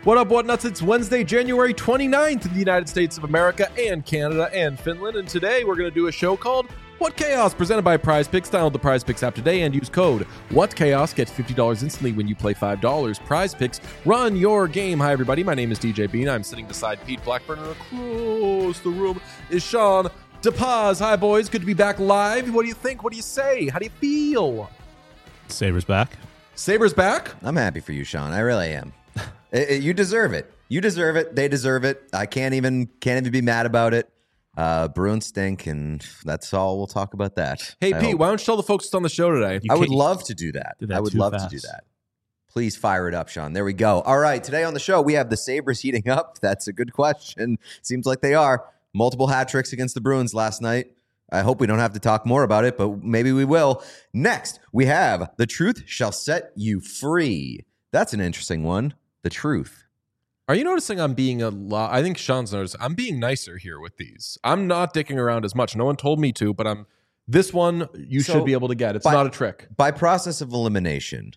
What up, what nuts? It's Wednesday, January 29th in the United States of America and Canada and Finland. And today we're going to do a show called What Chaos, presented by Prize Picks. Download the Prize Picks app today and use code WhatChaos. Get $50 instantly when you play $5. Prize Picks, run your game. Hi, everybody. My name is DJ Bean. I'm sitting beside Pete Blackburn, and across the room is Sean DePaz. Hi, boys. Good to be back live. What do you think? What do you say? How do you feel? Sabres back. Sabres back? I'm happy for you, Sean. I really am. You deserve it. You deserve it. They deserve it. I can't even be mad about it. Bruins stink, and that's all. We'll talk about that. Hey, Pete, why don't you tell the folks what's on the show today? I would love to do that. I would love to do that. Please fire it up, Sean. There we go. All right, today on the show, we have the Sabres heating up. That's a good question. Seems like they are. Multiple hat tricks against the Bruins last night. I hope we don't have to talk more about it, but maybe we will. Next, we have The Truth Shall Set You Free. That's an interesting one. The truth. Are you noticing I'm being a lot? I think Sean's noticed. I'm being nicer here with these. I'm not dicking around as much. No one told me to, but this one you should be able to get. It's not a trick. By process of elimination,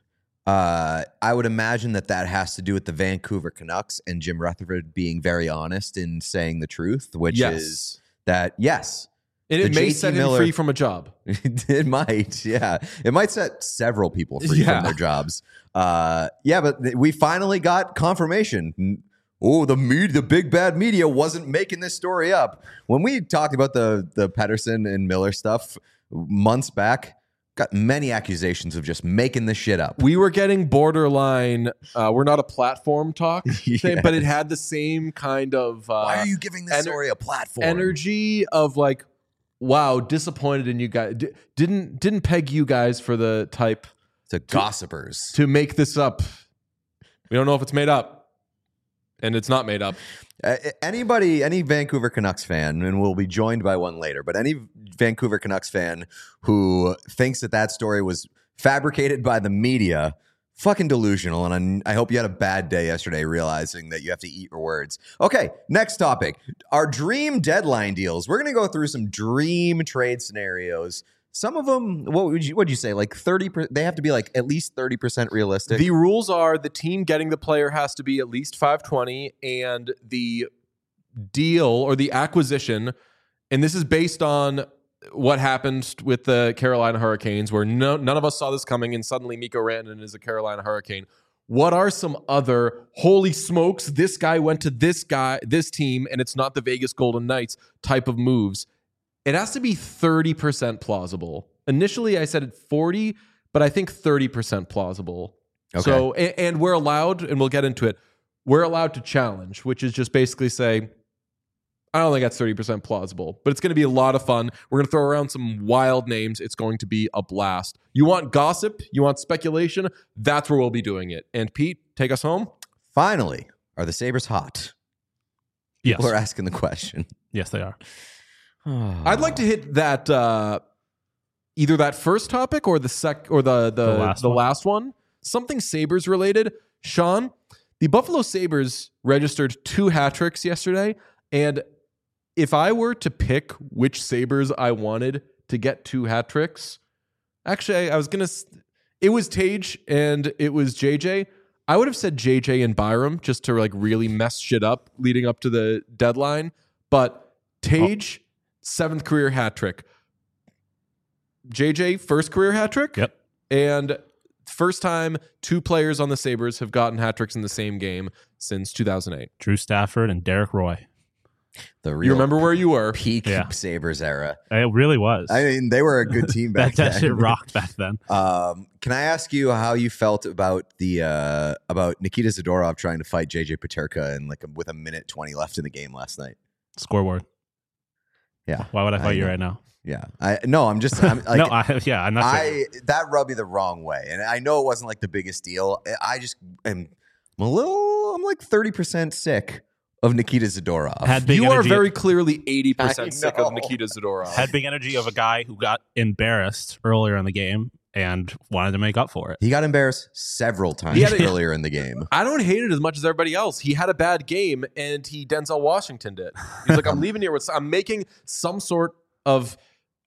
I would imagine that has to do with the Vancouver Canucks and Jim Rutherford being very honest in saying the truth, which is that, yes. And it may set him free from a job. It might, yeah. It might set several people free from their jobs. But we finally got confirmation. Oh, the big bad media wasn't making this story up. When we talked about the Pettersson and Miller stuff months back, got many accusations of just making this shit up. We were getting borderline, we're not a platform talk, but it had the same kind of... why are you giving this story a platform? Energy of like, wow, disappointed in you guys. Didn't peg you guys for the type... to gossipers. To make this up. We don't know if it's made up. And it's not made up. Any Vancouver Canucks fan, and we'll be joined by one later, but any Vancouver Canucks fan who thinks that story was fabricated by the media, fucking delusional. And I hope you had a bad day yesterday realizing that you have to eat your words. Okay, next topic. Our dream deadline deals. We're going to go through some dream trade scenarios. Some of them, what would you say? Like 30%? They have to be like at least 30% realistic. The rules are the team getting the player has to be at least 520, and the deal or the acquisition, and this is based on what happened with the Carolina Hurricanes, where none of us saw this coming, and suddenly Mikko Rantanen is a Carolina Hurricane. What are some other, holy smokes, this guy went to this team, and it's not the Vegas Golden Knights type of moves? It has to be 30% plausible. Initially, I said 40, but I think 30% plausible. Okay. So, and we're allowed, and we'll get into it, we're allowed to challenge, which is just basically say, I don't think that's 30% plausible, but it's going to be a lot of fun. We're going to throw around some wild names. It's going to be a blast. You want gossip? You want speculation? That's where we'll be doing it. And Pete, take us home. Finally, are the Sabres hot? Yes. People are asking the question. Yes, they are. I'd like to hit that either that first topic or the last one. Something Sabres related. Sean, the Buffalo Sabres registered 2 hat tricks yesterday, and if I were to pick which Sabres I wanted to get 2 hat tricks, actually it was Tage and it was JJ. I would have said JJ and Byram just to like really mess shit up leading up to the deadline, but Tage 7th career hat trick. JJ, 1st career hat trick. Yep. And first time 2 players on the Sabres have gotten hat tricks in the same game since 2008. Drew Stafford and Derek Roy. You remember where you were. Peak Sabres era. It really was. I mean, they were a good team back then. That shit rocked back then. Can I ask you how you felt about about Nikita Zadorov trying to fight JJ Peterka and with a minute 20 left in the game last night? Scoreboard. Yeah. Why would I fight you right now? Yeah. I'm like, I'm not. That rubbed me the wrong way, and I know it wasn't like the biggest deal. I just I'm I'm like 30% sick of Nikita Zadorov. You are very clearly 80% sick of Nikita Zadorov. Had big energy of a guy who got embarrassed earlier in the game and wanted to make up for it. He got embarrassed several times earlier in the game. I don't hate it as much as everybody else. He had a bad game, and he Denzel Washingtoned it. He's like, I'm leaving here with, I'm making some sort of,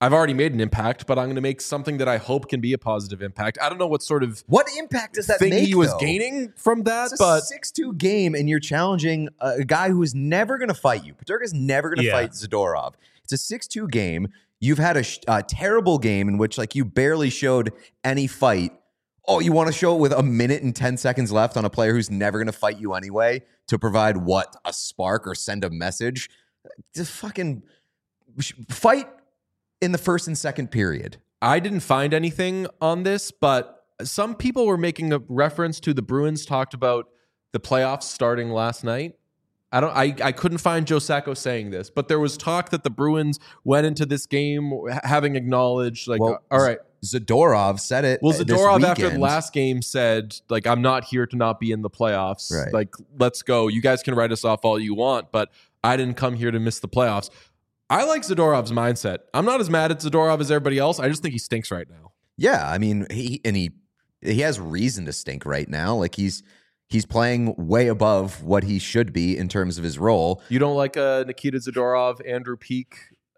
I've already made an impact, but I'm going to make something that I hope can be a positive impact. I don't know what sort of What impact does that thing make, he was though? gaining from that, It's a but 6-2 game, and you're challenging a guy who is never going to fight you. Peterka's never going to fight Zadorov. It's a 6-2 game. You've had a terrible game in which like you barely showed any fight. Oh, you want to show it with 1 minute and 10 seconds left on a player who's never going to fight you anyway to provide what? A spark or send a message? Just fucking fight in the first and second period. I didn't find anything on this, but some people were making a reference to the Bruins talked about the playoffs starting last night. I couldn't find Joe Sacco saying this, but there was talk that the Bruins went into this game having acknowledged, like, Well, all right. Zadorov said it. Well, this Zadorov after the weekend. last game said, like, I'm not here to not be in the playoffs. Right. Like, let's go. You guys can write us off all you want, but I didn't come here to miss the playoffs. I like Zadorov's mindset. I'm not as mad at Zadorov as everybody else. I just think he stinks right now. Yeah, I mean, he has reason to stink right now. Like he's playing way above what he should be in terms of his role. You don't like Nikita Zadorov, Andrew Peak,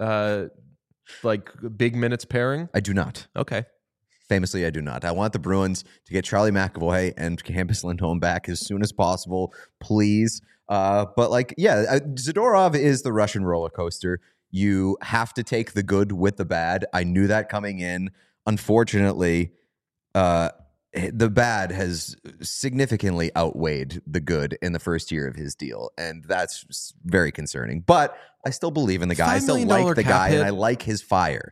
like big minutes pairing? I do not. Okay. Famously, I do not. I want the Bruins to get Charlie McAvoy and Hampus Lindholm back as soon as possible, please. But like, yeah, Zadorov is the Russian roller coaster. You have to take the good with the bad. I knew that coming in. Unfortunately, the bad has significantly outweighed the good in the first year of his deal, and that's very concerning. But I still believe in the guy. I still $5 like million the cap guy, hit. and I like his fire.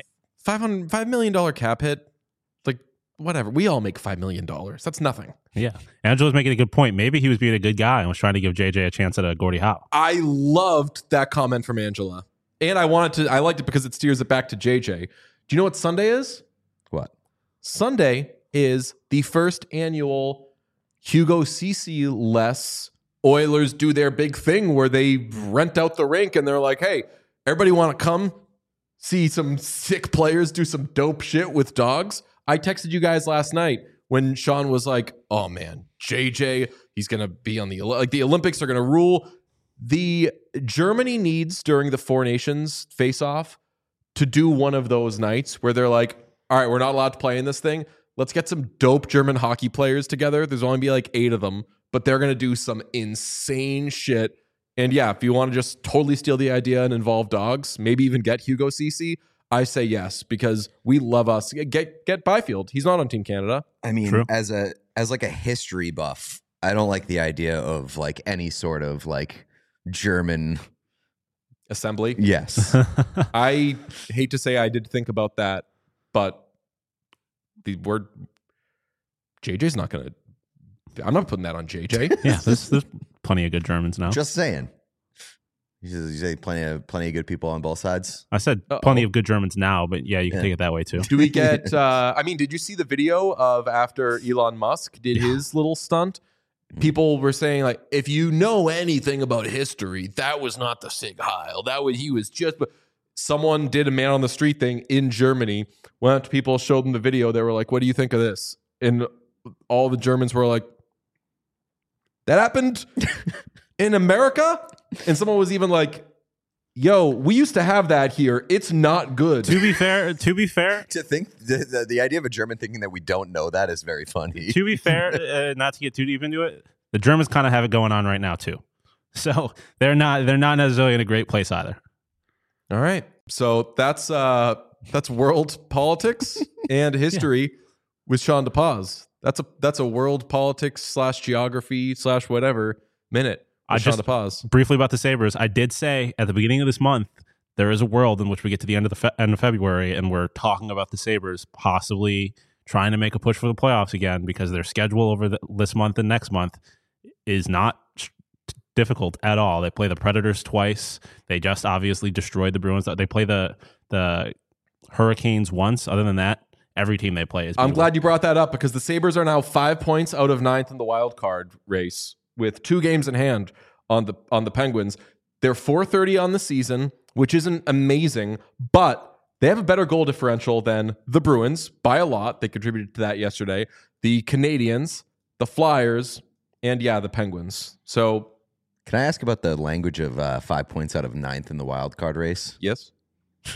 $5 million cap hit. Like, whatever. We all make $5 million. That's nothing. Yeah. Angela's making a good point. Maybe he was being a good guy and was trying to give JJ a chance at a Gordie Howe. I loved that comment from Angela. And I liked it because it steers it back to JJ. Do you know what Sunday is? What? Sunday is the first annual Hugo Ceci-less Oilers do their big thing where they rent out the rink and they're like, hey, everybody want to come see some sick players do some dope shit with dogs? I texted you guys last night when Sean was like, oh man, JJ, he's going to be on the Olympics are going to rule. The Germany needs during the Four Nations face-off to do one of those nights where they're like, all right, we're not allowed to play in this thing. Let's get some dope German hockey players together. There's only be like 8 of them, but they're going to do some insane shit. And yeah, if you want to just totally steal the idea and involve dogs, maybe even get Hugo Ceci, I say yes, because we love us. Get Byfield. He's not on Team Canada. I mean, True. as like a history buff, I don't like the idea of like any sort of like German Assembly. Yes. I hate to say I did think about that, but the word JJ's not going to, I'm not putting that on JJ. Yeah, there's plenty of good Germans now. Just saying. You say plenty of good people on both sides. I said plenty of good Germans now, but yeah, you can take it that way too. Do we get, I mean, did you see the video of after Elon Musk did his little stunt? People were saying, like, if you know anything about history, that was not the Sig Heil. He was just, but someone did a man on the street thing in Germany. Went up to people, showed them the video. They were like, what do you think of this? And all the Germans were like, that happened in America? And someone was even like, yo, we used to have that here. It's not good. To be fair, To think the idea of a German thinking that we don't know that is very funny. to be fair, not to get too deep into it, the Germans kind of have it going on right now too. So they're not necessarily in a great place either. All right. So that's world politics and history with Sean DePaz. That's a world politics / geography / whatever minute. Sean DePaz. Briefly about the Sabres, I did say at the beginning of this month, there is a world in which we get to the end of end of February and we're talking about the Sabres possibly trying to make a push for the playoffs again because their schedule over this month and next month is not difficult at all. They play the Predators twice. They just obviously destroyed the Bruins. They play the Hurricanes once. Other than that, every team they play is beatable. I'm glad you brought that up because the Sabres are now 5 points out of 9th in the wild card race with 2 games in hand on the Penguins. They're .430 on the season, which isn't amazing, but they have a better goal differential than the Bruins by a lot. They contributed to that yesterday. The Canadiens, the Flyers, and the Penguins. So, can I ask about the language of 5 points out of 9th in the wild card race? yes.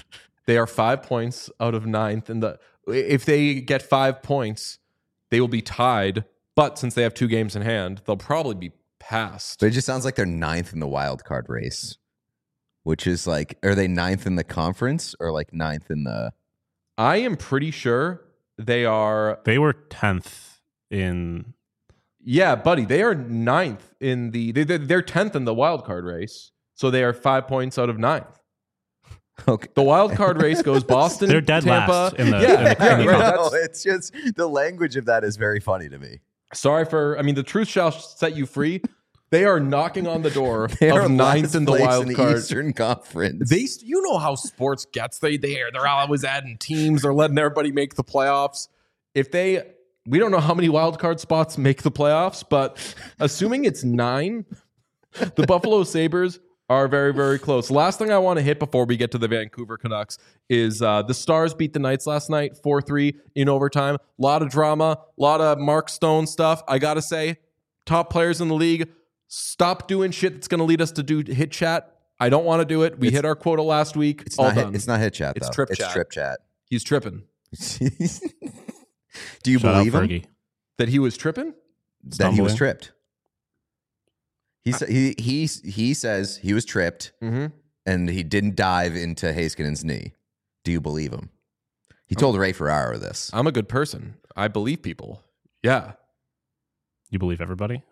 They are 5 points out of ninth. If they get 5 points, they will be tied. But since they have 2 games in hand, they'll probably be passed. But it just sounds like they're ninth in the wild card race, which is like, are they ninth in the conference or like ninth in the? I am pretty sure they are. They were 10th in. Yeah, buddy, they are ninth in the. They're 10th in the wild card race, so they are 5 points out of ninth. Okay. The wild card race goes Boston. They're dead Tampa. last in the. Yeah, in the right. No, it's just the language of that is very funny to me. Sorry for. I mean, the truth shall set you free. They are knocking on the door They are of ninth last in the place wild in card. the Eastern Conference. You know how sports gets. They're always adding teams. They're letting everybody make the playoffs. We don't know how many wild card spots make the playoffs, but assuming it's 9, the Buffalo Sabres are very, very close. Last thing I want to hit before we get to the Vancouver Canucks is the Stars beat the Knights last night 4-3 in overtime. A lot of drama, a lot of Mark Stone stuff. I got to say, top players in the league, stop doing shit that's going to lead us to do hit chat. I don't want to do it. We hit our quota last week. It's All not done. it's not hit chat. It's though. trip It's chat. trip chat. He's tripping. Do you Shout out believe him Fergie. That he was tripping? that he was Stumbling. tripped? He says he was tripped Mm-hmm. and he didn't dive into Hayskanen's knee. Do you believe him? He told Ray Ferraro this. I'm a good person. I believe people. Yeah. You believe everybody?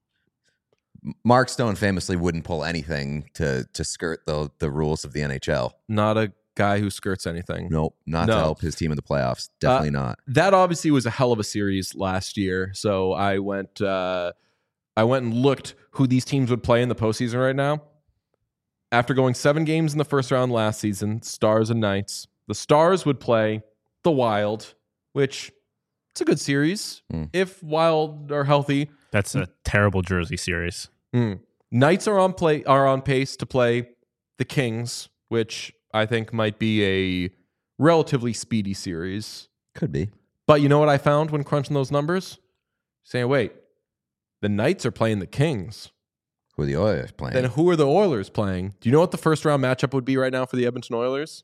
Mark Stone famously wouldn't pull anything to skirt the rules of the NHL. Not a guy who skirts anything. Nope, not to No. help his team in the playoffs. Definitely not. That obviously was a hell of a series last year. So I went and looked who these teams would play in the postseason right now. After going 7 games in the first round last season, Stars and Knights, the Stars would play the Wild, which it's a good series if Wild are healthy. That's a terrible Jersey series. Knights are on pace to play the Kings, which I think might be a relatively speedy series. Could be. But you know what I found when crunching those numbers? Saying, wait, the Knights are playing the Kings. Who are the Oilers playing? Then who are the Oilers playing? Do you know what the first round matchup would be right now for the Edmonton Oilers?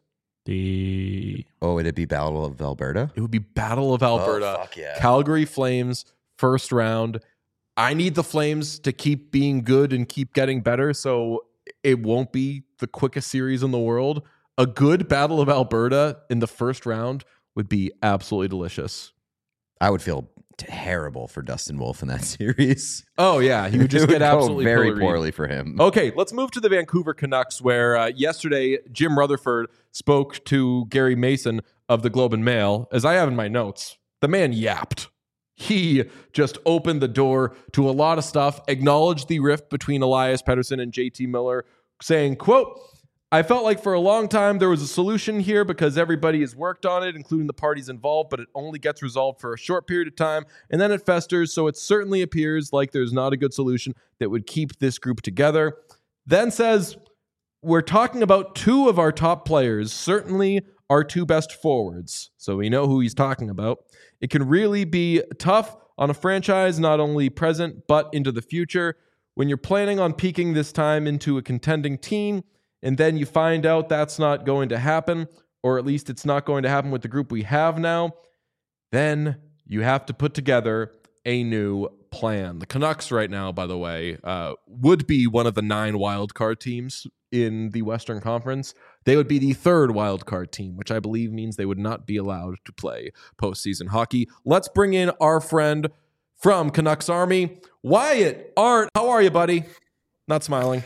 Would it be Battle of Alberta? It would be Battle of Alberta. fuck yeah. Calgary Flames, first round. I need the Flames to keep being good and keep getting better, so it won't be the quickest series in the world. A good Battle of Alberta in the first round would be absolutely delicious. I would feel terrible for Dustin Wolf in that series. Oh, yeah. He would just It get go absolutely very pilloried. poorly for him. Okay, let's move to the Vancouver Canucks, where yesterday Jim Rutherford spoke to Gary Mason of the Globe and Mail. As I have in my notes, the man yapped. He just opened the door to a lot of stuff, acknowledged the rift between Elias Pettersson and JT Miller, saying, quote, I felt like for a long time there was a solution here because everybody has worked on it, including the parties involved, but it only gets resolved for a short period of time, and then it festers, so it certainly appears like there's not a good solution that would keep this group together. Then says, we're talking about 2 of our top players, certainly our 2 best forwards, so we know who he's talking about. It can really be tough on a franchise, not only present, but into the future. When you're planning on peaking this time into a contending team, and then you find out that's not going to happen, or at least it's not going to happen with the group we have now, then you have to put together a new plan. The Canucks right now, by the way, would be one of the 9 wild card teams in the Western Conference. They would be the 3rd wild card team, which I believe means they would not be allowed to play postseason hockey. Let's bring in our friend from Canucks Army, Wyatt Art. How are you, buddy? Not smiling.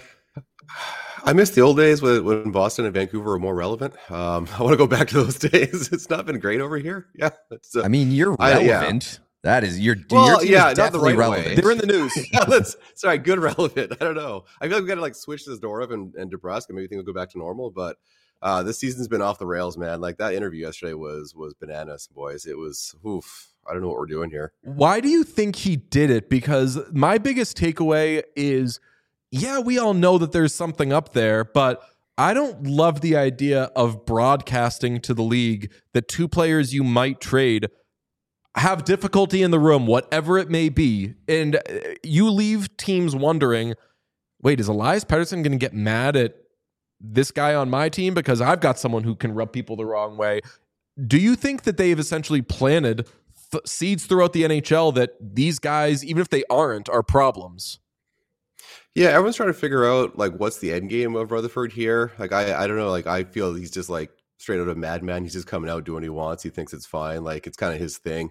I miss the old days when Boston and Vancouver were more relevant. I want to go back to those days. It's not been great over here. Yeah, I mean, you're relevant. That is your team Well, is yeah, not the definitely right relevant. way. They're in the news. Sorry, good relevant. I don't know. I feel like we got to like switch this door up and DeBrusque and maybe things will go back to normal. But this season's been off the rails, man. Like that interview yesterday was bananas, boys. It was oof. I don't know what we're doing here. Why do you think he did it? Because my biggest takeaway is, yeah, we all know that there's something up there, but I don't love the idea of broadcasting to the league that 2 players you might trade have difficulty in the room, whatever it may be. And you leave teams wondering, wait, is Elias Pettersson going to get mad at this guy on my team because I've got someone who can rub people the wrong way. Do you think that they've essentially planted seeds throughout the NHL that these guys, even if they aren't, are problems? Yeah, everyone's trying to figure out like what's the end game of Rutherford here. Like I don't know. Like I feel he's just like straight out of Madman. He's just coming out doing what he wants. He thinks it's fine. Like it's kind of his thing.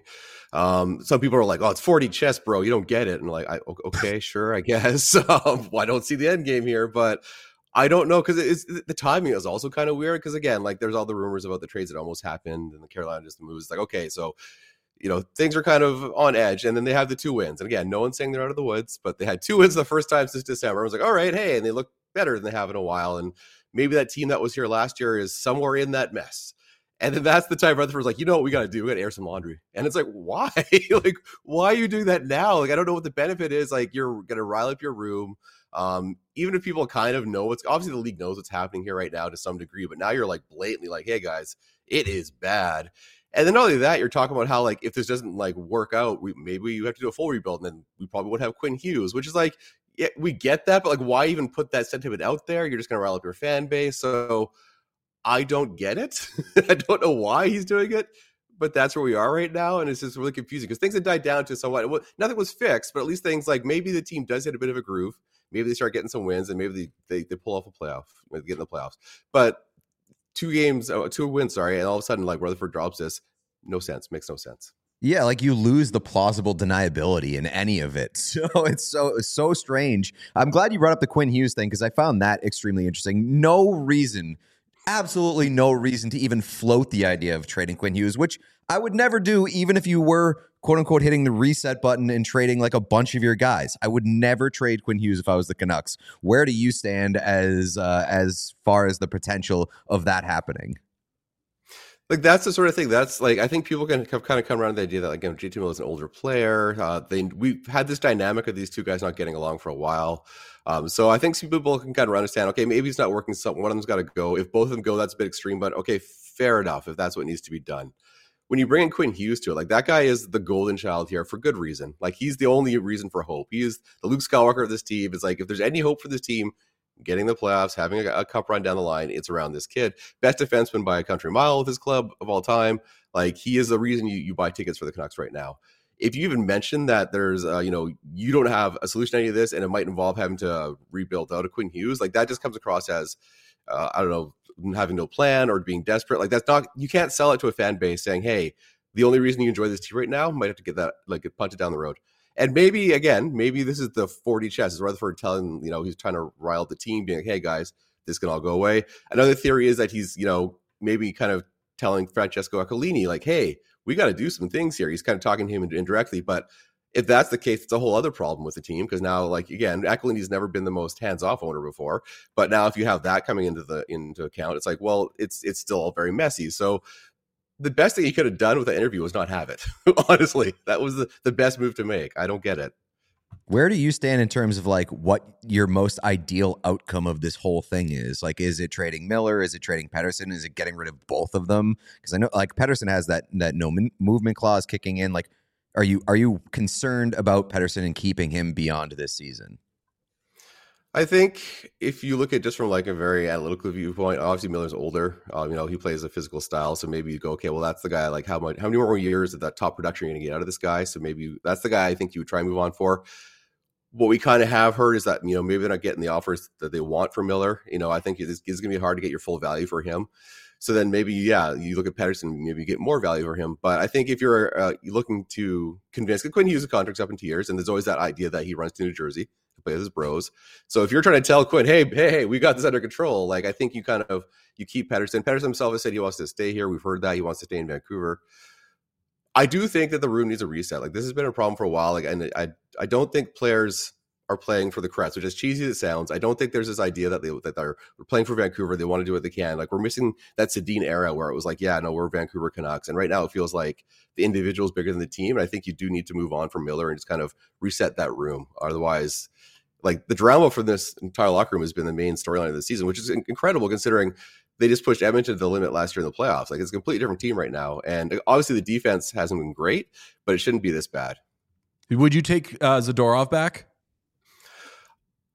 Some people are like, "Oh, it's 4D chess, bro. You don't get it." And like, okay, sure, I guess. I don't see the end game here, but I don't know because it's the timing is also kind of weird. Because again, like there's all the rumors about the trades that almost happened and the Carolina just moves. It's like okay, so things are kind of on edge, and then they have the 2 wins. And again, no one's saying they're out of the woods, but they had 2 wins the first time since December. I was like, all right, hey, and they look better than they have in a while. And maybe that team that was here last year is somewhere in that mess. And then that's the time Rutherford's like, you know what we got to do? We got to air some laundry. And it's like, why? Like, why are you doing that now? Like, I don't know what the benefit is. Like, you're going to rile up your room. Even if people kind of know what's obviously the league knows what's happening here right now to some degree, but now you're like blatantly like, hey guys, it is bad. And then not only that, you're talking about how like if this doesn't like work out, maybe you have to do a full rebuild, and then we probably would have Quinn Hughes, which is like, yeah, we get that, but like, why even put that sentiment out there? You're just going to rile up your fan base. So I don't get it. I don't know why he's doing it, but that's where we are right now, and it's just really confusing because things had died down to somewhat. Nothing was fixed, but at least things like maybe the team does hit a bit of a groove. Maybe they start getting some wins, and maybe they pull off a playoff, get in the playoffs. But 2 wins, sorry, and all of a sudden like Rutherford drops this. No sense. Makes no sense. Yeah, like you lose the plausible deniability in any of it. So it's so strange. I'm glad you brought up the Quinn Hughes thing because I found that extremely interesting. No reason, absolutely no reason to even float the idea of trading Quinn Hughes, which I would never do even if you were, quote unquote, hitting the reset button and trading like a bunch of your guys. I would never trade Quinn Hughes if I was the Canucks. Where do you stand as far as the potential of that happening? Like that's the sort of thing that's like I think people can kind of come around to the idea that like JT Miller is an older player. We've had this dynamic of these 2 guys not getting along for a while. So I think some people can kind of understand, okay, maybe it's not working. One of them's got to go. If both of them go, that's a bit extreme, but okay, fair enough if that's what needs to be done. When you bring in Quinn Hughes to it, like that guy is the golden child here for good reason. Like he's the only reason for hope. He is the Luke Skywalker of this team. It's like if there's any hope for this team, getting the playoffs, having a cup run down the line, it's around this kid. Best defenseman by a country mile with his club of all time. Like he is the reason you buy tickets for the Canucks right now. If you even mention that there's, you don't have a solution to any of this and it might involve having to rebuild out a Quinn Hughes, like that just comes across as, I don't know, having no plan or being desperate. Like that's not, you can't sell it to a fan base saying, hey, the only reason you enjoy this team right now might have to get that, like get punted down the road. And maybe this is the 4D chess. Is Rutherford telling, he's trying to rile the team, being like, hey, guys, this can all go away. Another theory is that he's, maybe kind of telling Francesco Aquilini, like, hey, we got to do some things here. He's kind of talking to him indirectly. But if that's the case, it's a whole other problem with the team because now, like, again, Aquilini's never been the most hands-off owner before. But now if you have that coming into account, it's like, well, it's still all very messy. So the best thing he could have done with that interview was not have it. Honestly, that was the best move to make. I don't get it. Where do you stand in terms of like what your most ideal outcome of this whole thing is? Like, is it trading Miller? Is it trading Pettersson? Is it getting rid of both of them? Because I know like Pettersson has that no movement clause kicking in. Like, are you concerned about Pettersson and keeping him beyond this season? I think if you look at just from like a very analytical viewpoint, obviously Miller's older. He plays a physical style, so maybe you go, okay, well that's the guy. Like how many more years of that top production you're going to get out of this guy? So maybe that's the guy I think you would try and move on for. What we kind of have heard is that maybe they're not getting the offers that they want for Miller. I think it's going to be hard to get your full value for him. So then maybe you look at Pettersson, maybe you get more value for him. But I think if you're looking to convince Quinn Hughes' contract's up in 2 years, and there's always that idea that he runs to New Jersey to play with his bros. So if you're trying to tell Quinn, hey, we got this under control, like I think you keep Pettersson. Pettersson himself has said he wants to stay here. We've heard that he wants to stay in Vancouver. I do think that the room needs a reset. Like this has been a problem for a while. Like, and I don't think players are playing for the crest, which as cheesy as it sounds. I don't think there's this idea that they're playing for Vancouver. They want to do what they can. Like we're missing that Sedin era where it was like, yeah, no, we're Vancouver Canucks. And right now it feels like the individual is bigger than the team. And I think you do need to move on from Miller and just kind of reset that room. Otherwise, like the drama for this entire locker room has been the main storyline of the season, which is incredible considering they just pushed Edmonton to the limit last year in the playoffs. Like it's a completely different team right now. And obviously the defense hasn't been great, but it shouldn't be this bad. Would you take Zadorov back?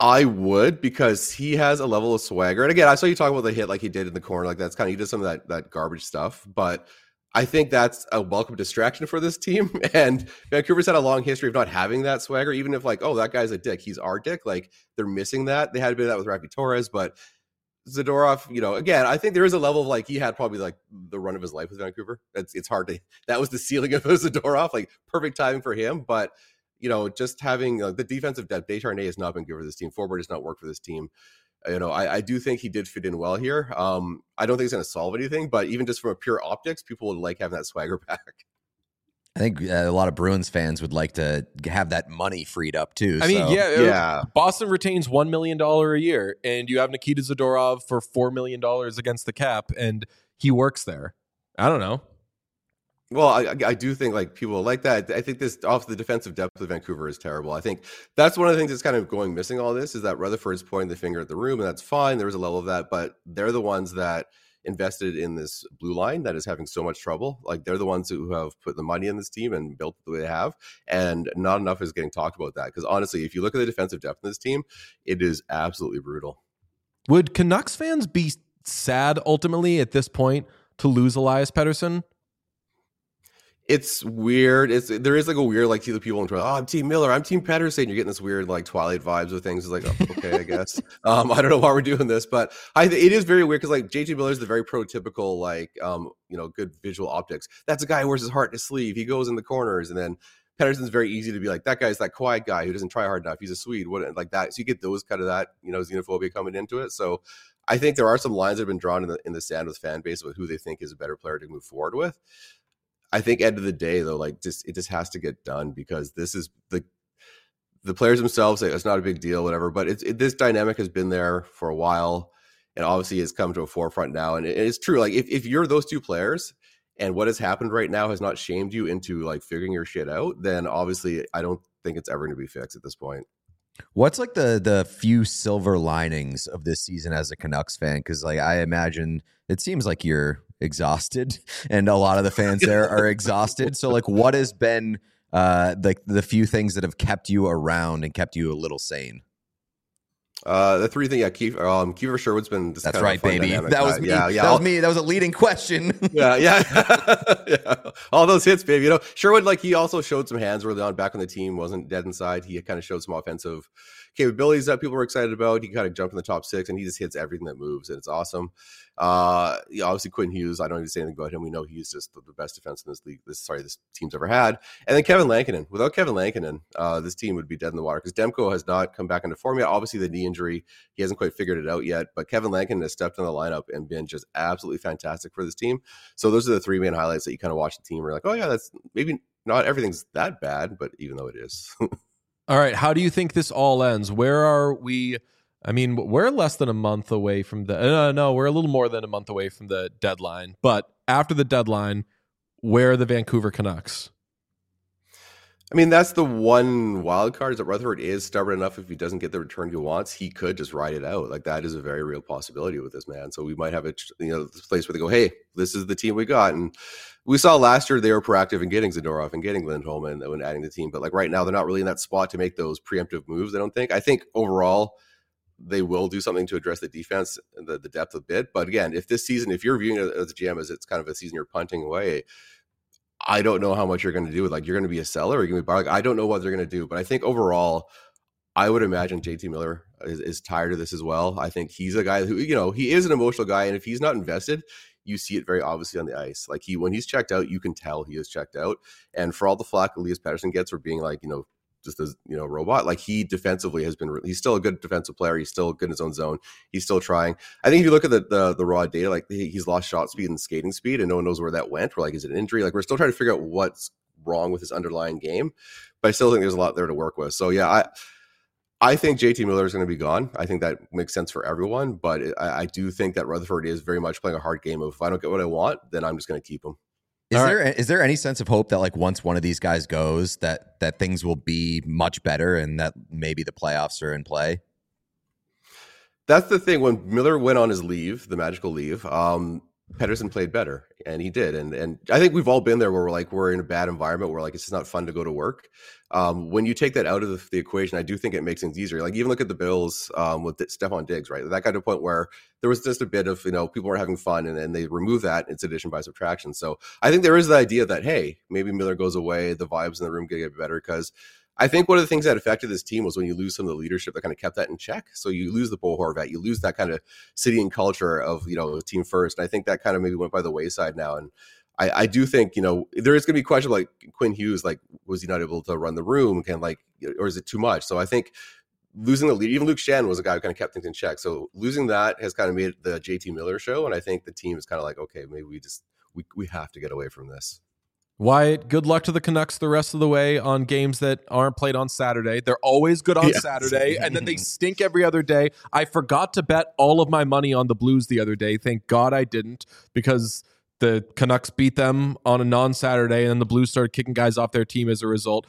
I would, because he has a level of swagger. And again, I saw you talk about the hit like he did in the corner. Like that's kind of, he did some of that garbage stuff. But I think that's a welcome distraction for this team. And Vancouver's had a long history of not having that swagger, even if like, oh, that guy's a dick. He's our dick. Like they're missing that. They had a bit of that with Rafi Torres, but Zadorov, again, I think there is a level of like, he had probably like the run of his life with Vancouver. It's hard to, that was the ceiling of Zadorov, like perfect timing for him. But just having the defensive depth, Desharnais has not been good for this team. Forward has not worked for this team. I do think he did fit in well here. I don't think it's going to solve anything, but even just from a pure optics, people would like having that swagger back. I think a lot of Bruins fans would like to have that money freed up too. I mean, yeah. Boston retains $1 million a year, and you have Nikita Zadorov for $4 million against the cap, and he works there. I don't know. Well, I do think like people like that. I think this off the defensive depth of Vancouver is terrible. I think that's one of the things that's kind of going missing all this is that Rutherford's pointing the finger at the room, and that's fine. There was a level of that, but they're the ones that invested in this blue line that is having so much trouble. Like they're the ones who have put the money in this team and built it the way they have, and not enough is getting talked about that. Because honestly, if you look at the defensive depth in this team, it is absolutely brutal. Would Canucks fans be sad ultimately at this point to lose Elias Pettersson? It's weird. There is like a weird like to the people in Toronto. Oh, I'm Team Miller. I'm Team Pettersson. You're getting this weird like Twilight vibes with things. It's like, oh, okay, I guess. I don't know why we're doing this, but it is very weird because like JT Miller is the very prototypical like good visual optics. That's a guy who wears his heart in his sleeve. He goes in the corners, and then Pettersson's very easy to be like that guy's that quiet guy who doesn't try hard enough. He's a Swede, like that. So you get those kind of that xenophobia coming into it. So I think there are some lines that have been drawn in the sand with fan base with who they think is a better player to move forward with. I think end of the day though, like it just has to get done because this is the players themselves say it's not a big deal, whatever. But this dynamic has been there for a while, and obviously has come to a forefront now. And it's true. Like if you're those two players, and what has happened right now has not shamed you into like figuring your shit out, then obviously I don't think it's ever going to be fixed at this point. What's like the few silver linings of this season as a Canucks fan? Because like I imagine it seems like you're exhausted, and a lot of the fans there are exhausted. So like, what has been like the few things that have kept you around and kept you a little sane? The three things, Kiefer Sherwood's been. That's right, baby. Dynamic. That was me. Yeah. That was me. That was a leading question. yeah. All those hits, baby. Sherwood, like he also showed some hands early on back when the team wasn't dead inside. He kind of showed some offensive capabilities that people were excited about. He kind of jumped in the top six, and he just hits everything that moves, and it's awesome. Obviously Quinn Hughes, I don't need to say anything about him. We know he's just the best defense in this league. This team's ever had. And then Kevin Lankinen. Without Kevin Lankinen, this team would be dead in the water because Demko has not come back into form yet. Obviously the knee injury, he hasn't quite figured it out yet. But Kevin Lankinen has stepped in the lineup and been just absolutely fantastic for this team. So those are the three main highlights that you kind of watch the team. We're like, oh yeah, that's maybe not everything's that bad, but even though it is. All right. How do you think this all ends? Where are we? I mean, we're less than a month away from no, we're a little more than a month away from the deadline. But after the deadline, where are the Vancouver Canucks? I mean, that's the one wild card is that Rutherford is stubborn enough. If he doesn't get the return he wants, he could just ride it out. Like that is a very real possibility with this man. So we might have this place where they go, hey, this is the team we got. And we saw last year they were proactive in getting Zadorov and getting Lindholm and when adding the team. But like right now, they're not really in that spot to make those preemptive moves. I don't think. I think overall they will do something to address the defense and the depth a bit. But again, if you're viewing it as a GM as it's kind of a season you're punting away, I don't know how much you're going to do. Like you're going to be a seller or you're going to be buyer. Like, I don't know what they're going to do. But I think overall, I would imagine JT Miller is tired of this as well. I think he's a guy who, he is an emotional guy. And if he's not invested, you see it very obviously on the ice. Like when he's checked out, you can tell he is checked out. And for all the flack Elias Pettersson gets for being like, just as robot, like he defensively has been, he's still a good defensive player. He's still good in his own zone. He's still trying. I think if you look at the raw data, like he's lost shot speed and skating speed and no one knows where that went. We're like, is it an injury? Like we're still trying to figure out what's wrong with his underlying game, but I still think there's a lot there to work with. So yeah, I think JT Miller is going to be gone. I think that makes sense for everyone, but I do think that Rutherford is very much playing a hard game of if I don't get what I want, then I'm just going to keep him. Is there any sense of hope that like once one of these guys goes that things will be much better and that maybe the playoffs are in play? That's the thing. When Miller went on his leave, the magical leave, Pedersen played better, and he did. And I think we've all been there where we're in a bad environment where it's just not fun to go to work. When you take that out of the equation, I do think it makes things easier. Like even look at the Bills with Stephon Diggs, right? That got to a point where there was just a bit of, people were having fun, and they remove that. It's addition by subtraction. So I think there is the idea that, hey, maybe Miller goes away, the vibes in the room get better, because I think one of the things that affected this team was when you lose some of the leadership that kind of kept that in check. So you lose the Bo Horvat, you lose that kind of city and culture of, team first. And I think that kind of maybe went by the wayside now. And I do think, there is going to be questions like Quinn Hughes, like, was he not able to run the room? Or is it too much? So I think losing the lead, even Luke Shannon was a guy who kind of kept things in check. So losing that has kind of made it the JT Miller show. And I think the team is kind of like, okay, maybe we have to get away from this. Wyatt, good luck to the Canucks the rest of the way on games that aren't played on Saturday. They're always good on Saturday, and then they stink every other day. I forgot to bet all of my money on the Blues the other day. Thank God I didn't, because the Canucks beat them on a non-Saturday, and then the Blues started kicking guys off their team as a result.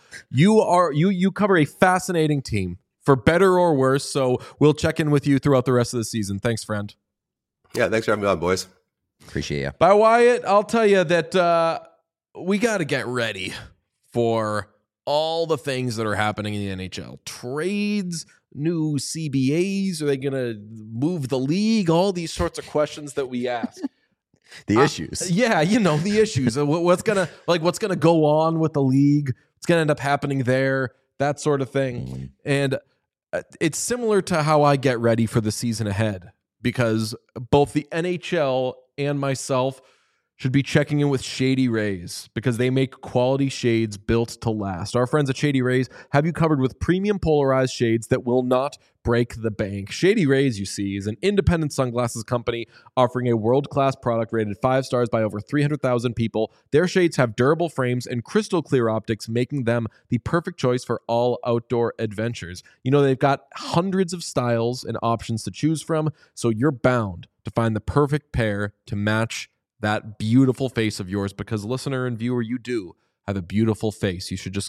You cover a fascinating team, for better or worse, so we'll check in with you throughout the rest of the season. Thanks, friend. Yeah, thanks for having me on, boys. Appreciate you. By Wyatt, I'll tell you that we got to get ready for all the things that are happening in the NHL. Trades, new CBAs, are they going to move the league? All these sorts of questions that we ask. The issues. Yeah, the issues. What's going to go on with the league? What's going to end up happening there? That sort of thing. And it's similar to how I get ready for the season ahead, because both the NHL and myself should be checking in with Shady Rays, because they make quality shades built to last. Our friends at Shady Rays have you covered with premium polarized shades that will not break the bank. Shady Rays, you see, is an independent sunglasses company offering a world-class product rated 5 stars by over 300,000 people. Their shades have durable frames and crystal clear optics, making them the perfect choice for all outdoor adventures. They've got hundreds of styles and options to choose from, so you're bound to find the perfect pair to match that beautiful face of yours, because listener and viewer, you do have a beautiful face. You should just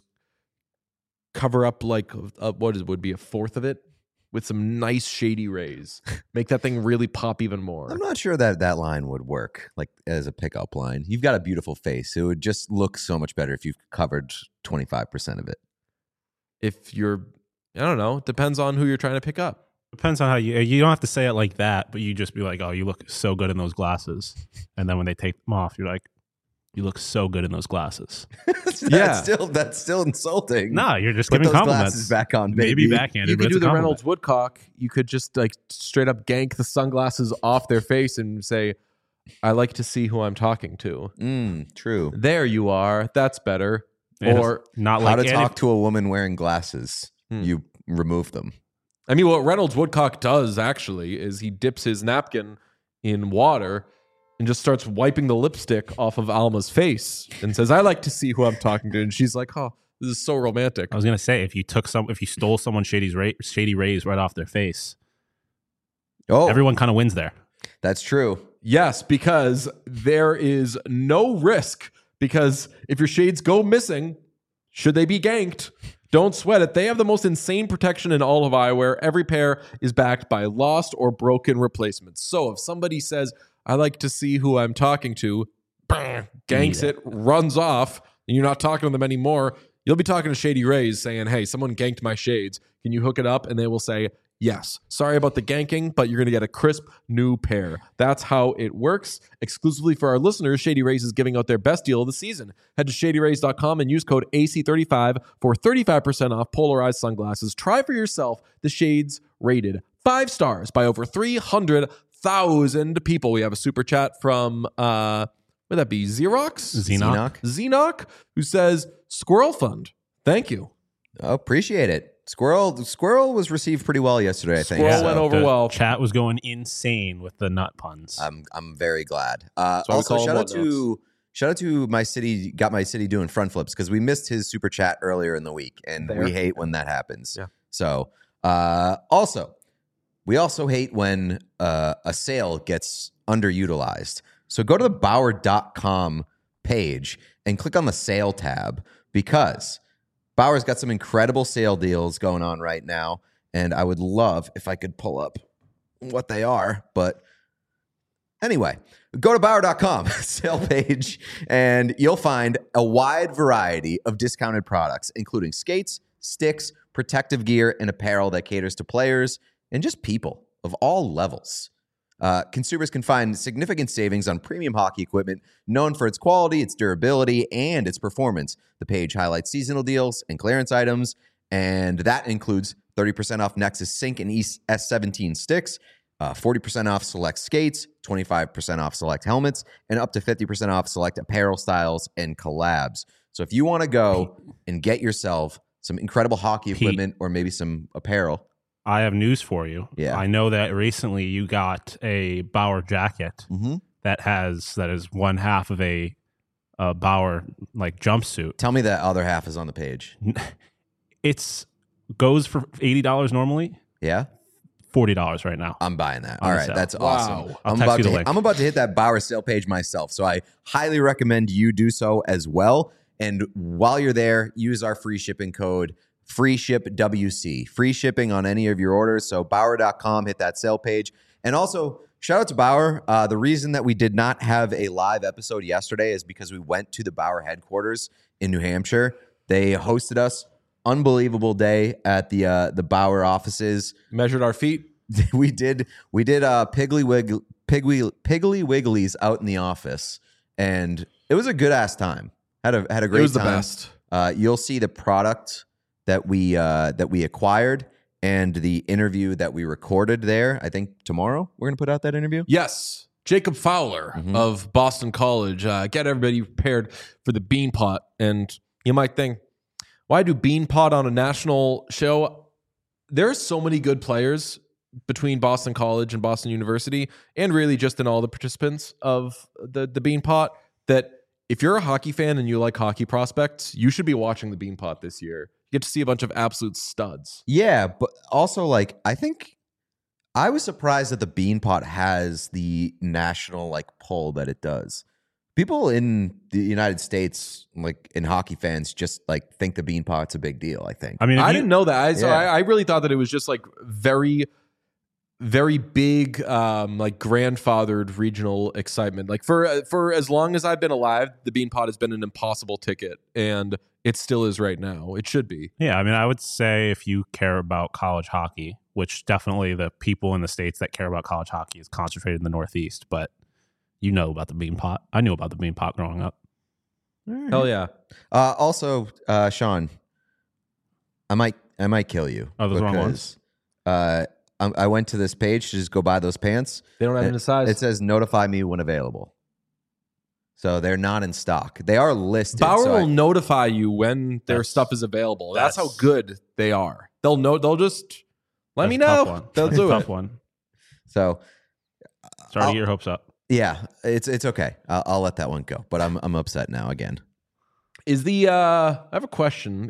cover up would be a fourth of it with some nice Shady Rays. Make that thing really pop even more. I'm not sure that line would work like as a pickup line. You've got a beautiful face. It would just look so much better if you've covered 25% of it. If you're, I don't know, it depends on who you're trying to pick up. Depends on how you don't have to say it like that, but you just be like, oh, you look so good in those glasses. And then when they take them off, you're like, you look so good in those glasses. That's still insulting. No, you're just Put giving those compliments. glasses back on, baby. Maybe backhanded. You could but do it's a the compliment. Reynolds Woodcock. You could just straight up gank the sunglasses off their face and say, I like to see who I'm talking to. True. There you are. That's better. And Or not How like to talk to a woman wearing glasses. You remove them. I mean, what Reynolds Woodcock does actually is he dips his napkin in water and just starts wiping the lipstick off of Alma's face and says, I like to see who I'm talking to. And she's like, oh, this is so romantic. I was gonna say, if you stole someone's Shady Rays right off their face, everyone kind of wins there. That's true. Yes, because there is no risk, because if your shades go missing, should they be ganked, don't sweat it. They have the most insane protection in all of eyewear. Every pair is backed by lost or broken replacements. So if somebody says, I like to see who I'm talking to, ganks it, runs off, and you're not talking to them anymore, you'll be talking to Shady Rays saying, hey, someone ganked my shades. Can you hook it up? And they will say, yes. Sorry about the ganking, but you're going to get a crisp new pair. That's how it works. Exclusively for our listeners, Shady Rays is giving out their best deal of the season. Head to shadyrays.com and use code AC35 for 35% off polarized sunglasses. Try for yourself the shades rated 5 stars by over 300,000 people. We have a super chat from, would that be Xenoc, who says, Squirrel Fund. Thank you. Oh, appreciate it. Squirrel was received pretty well yesterday, I think. Squirrel went over well. Chat was going insane with the nut puns. I'm very glad. Also, shout out to my city. Got my city doing front flips, because we missed his super chat earlier in the week, and we hate when that happens. Yeah. So, we also hate when a sale gets underutilized. So go to the Bauer.com page and click on the sale tab, because Bauer's got some incredible sale deals going on right now, and I would love if I could pull up what they are, but Anyway, go to Bauer.com, sale page, and you'll find a wide variety of discounted products, including skates, sticks, protective gear, and apparel that caters to players and just people of all levels. Consumers can find significant savings on premium hockey equipment known for its quality, its durability, and its performance. The page highlights seasonal deals and clearance items, and that includes 30% off Nexus Sync and S17 sticks, 40% off select skates, 25% off select helmets, and up to 50% off select apparel styles and collabs. So if you want to go and get yourself some incredible hockey equipment or maybe some apparel, I have news for you. Yeah. I know that recently you got a Bauer jacket that is one half of a Bauer like jumpsuit. tell me that other half is on the page. It's goes for $80 normally, Yeah? $40 right now. I'm buying that. On All the right, sale. that's Wow. awesome. I'll text you the link. I'm about to hit that Bauer sale page myself, so I highly recommend you do so as well. And while you're there, use our free shipping code FreeShipWC. Free shipping on any of your orders. So Bauer.com, hit that sale page. And also, shout out to Bauer. The reason that we did not have a live episode yesterday is because we went to the Bauer headquarters in New Hampshire. They hosted us. Unbelievable day at the Bauer offices. Measured our feet. we did Piggly Wigglies out in the office, and it was a good ass time. Had a great time. It was the best. You'll see the product that we acquired and the interview that we recorded there. I think tomorrow we're gonna put out that interview. Yes. Jacob Fowler of Boston College. Get everybody prepared for the Beanpot. And you might think, why do Beanpot on a national show? There are so many good players between Boston College and Boston University, and really just in all the participants of the Beanpot, that if you're a hockey fan and you like hockey prospects, you should be watching the Beanpot this year. You get to see a bunch of absolute studs. Yeah, but also like I think I was surprised that the Beanpot has the national like pull that it does. People in the United States, like in hockey fans, just like think the Beanpot's a big deal. I think. I mean, I didn't know that. Yeah. I really thought that it was just like very, very big, like grandfathered regional excitement. Like for as long as I've been alive, the Beanpot has been an impossible ticket, and it still is right now. It should be. Yeah, I mean, I would say if you care about college hockey, which definitely the people in the states that care about college hockey is concentrated in the Northeast, but you know about the Beanpot. I knew about the Beanpot growing up. Hell yeah. Also, Sean, I might kill you. Oh, those wrong ones? I went to this page to just go buy those pants. They don't have any size. It says notify me when available. So they're not in stock. They are listed. Bauer so will notify you when their That's- stuff is available. That's how that's- good they are. They'll know. They'll just let me That's a tough know. one. They'll That's a do tough it. one. So Sorry to get your hopes up. yeah, it's okay. I'll let that one go. But I'm upset now again. Is the I have a question.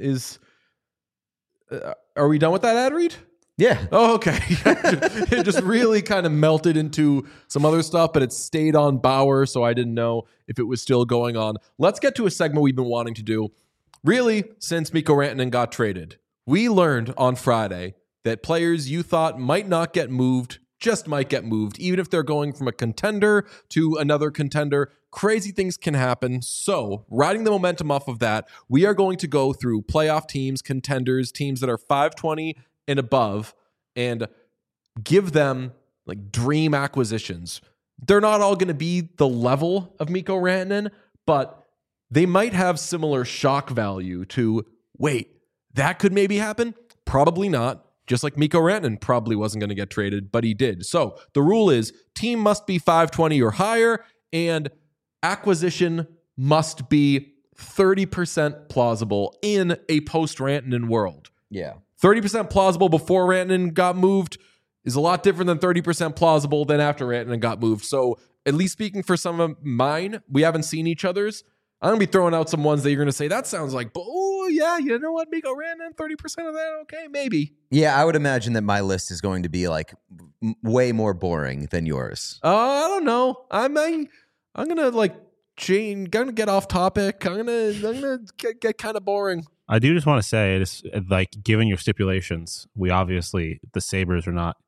Are we done with that ad read? Yeah. Oh, okay. It just really kind of melted into some other stuff, but it stayed on Bauer, so I didn't know if it was still going on. Let's get to a segment we've been wanting to do. Really, since Mikko Rantanen got traded, we learned on Friday that players you thought might not get moved just might get moved, even if they're going from a contender to another contender. Crazy things can happen. So, riding the momentum off of that, we are going to go through playoff teams, contenders, teams that are 520 and above, and give them like dream acquisitions. They're not all going to be the level of Mikko Rantanen, but they might have similar shock value to, wait, that could maybe happen? Probably not. Just like Mikko Rantanen probably wasn't going to get traded, but he did. So the rule is team must be 520 or higher, and acquisition must be 30% plausible in a post-Rantanen world. Yeah. 30% plausible before Rantanen got moved is a lot different than 30% plausible than after Rantanen got moved. So at least speaking for some of mine, we haven't seen each other's. I'm going to be throwing out some ones that you're going to say, that sounds like, oh, yeah, you know what, Mikko Rantanen, 30% of that, okay, maybe. Yeah, I would imagine that my list is going to be like way more boring than yours. I don't know. I'm going to like change, going to get off topic. I'm going to get kind of boring. I do just want to say, it's like, given your stipulations, we obviously, the Sabres are not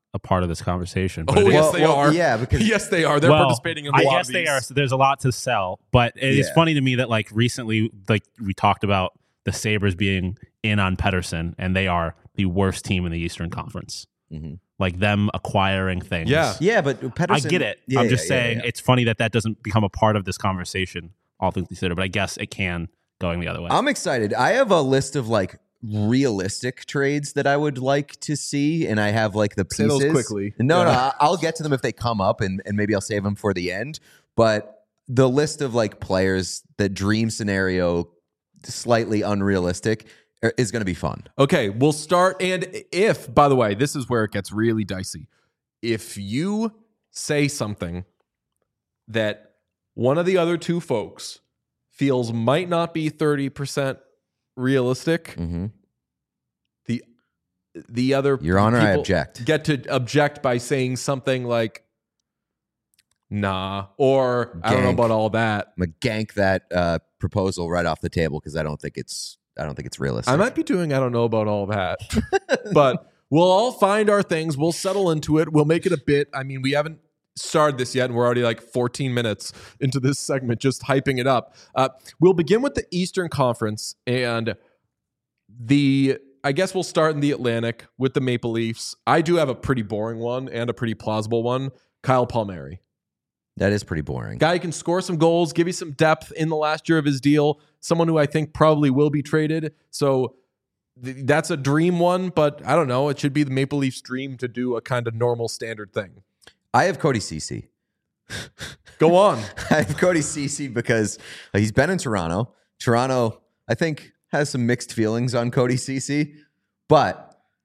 a part of this conversation. But Oh, it is- yes, they are. Yeah, because Yes, they are. They're well, participating in a I lot guess of they these. are. So there's a lot to sell, but it is Yeah. funny to me that like recently, like we talked about the Sabres being in on Pettersson, and they are the worst team in the Eastern Conference. Mhm. Like them acquiring things. Yeah, but Pettersson, I get it. Yeah, I'm just yeah, yeah, saying yeah. it's funny that doesn't become a part of this conversation, all things considered. But I guess it can going the other way. I'm excited. I have a list of like realistic trades that I would like to see, and I have like the Say pieces. those quickly. No, Yeah. I'll get to them if they come up, and maybe I'll save them for the end. But the list of like players that dream scenario slightly unrealistic is going to be fun. Okay, we'll start. And if, by the way, this is where it gets really dicey. If you say something that one of the other two folks feels might not be 30% realistic, Mm-hmm. the other Your Honor, I people object. get to object by saying something like, nah, or I don't know Gank. about all that. I'm gonna gank that proposal right off the table because I don't think it's realistic. I might be doing I don't know about all that. But we'll all find our things. We'll settle into it. We'll make it a bit. I mean, we haven't started this yet, and we're already like 14 minutes into this segment, just hyping it up. We'll begin with the Eastern Conference, and I guess we'll start in the Atlantic with the Maple Leafs. I do have a pretty boring one and a pretty plausible one. Kyle Palmieri. That is pretty boring. Guy who can score some goals, give you some depth in the last year of his deal. Someone who I think probably will be traded. So that's a dream one, but I don't know. It should be the Maple Leafs' dream to do a kind of normal standard thing. I have Cody Ceci. Go on. I have Cody Ceci because he's been in Toronto. Toronto, I think, has some mixed feelings on Cody Ceci, but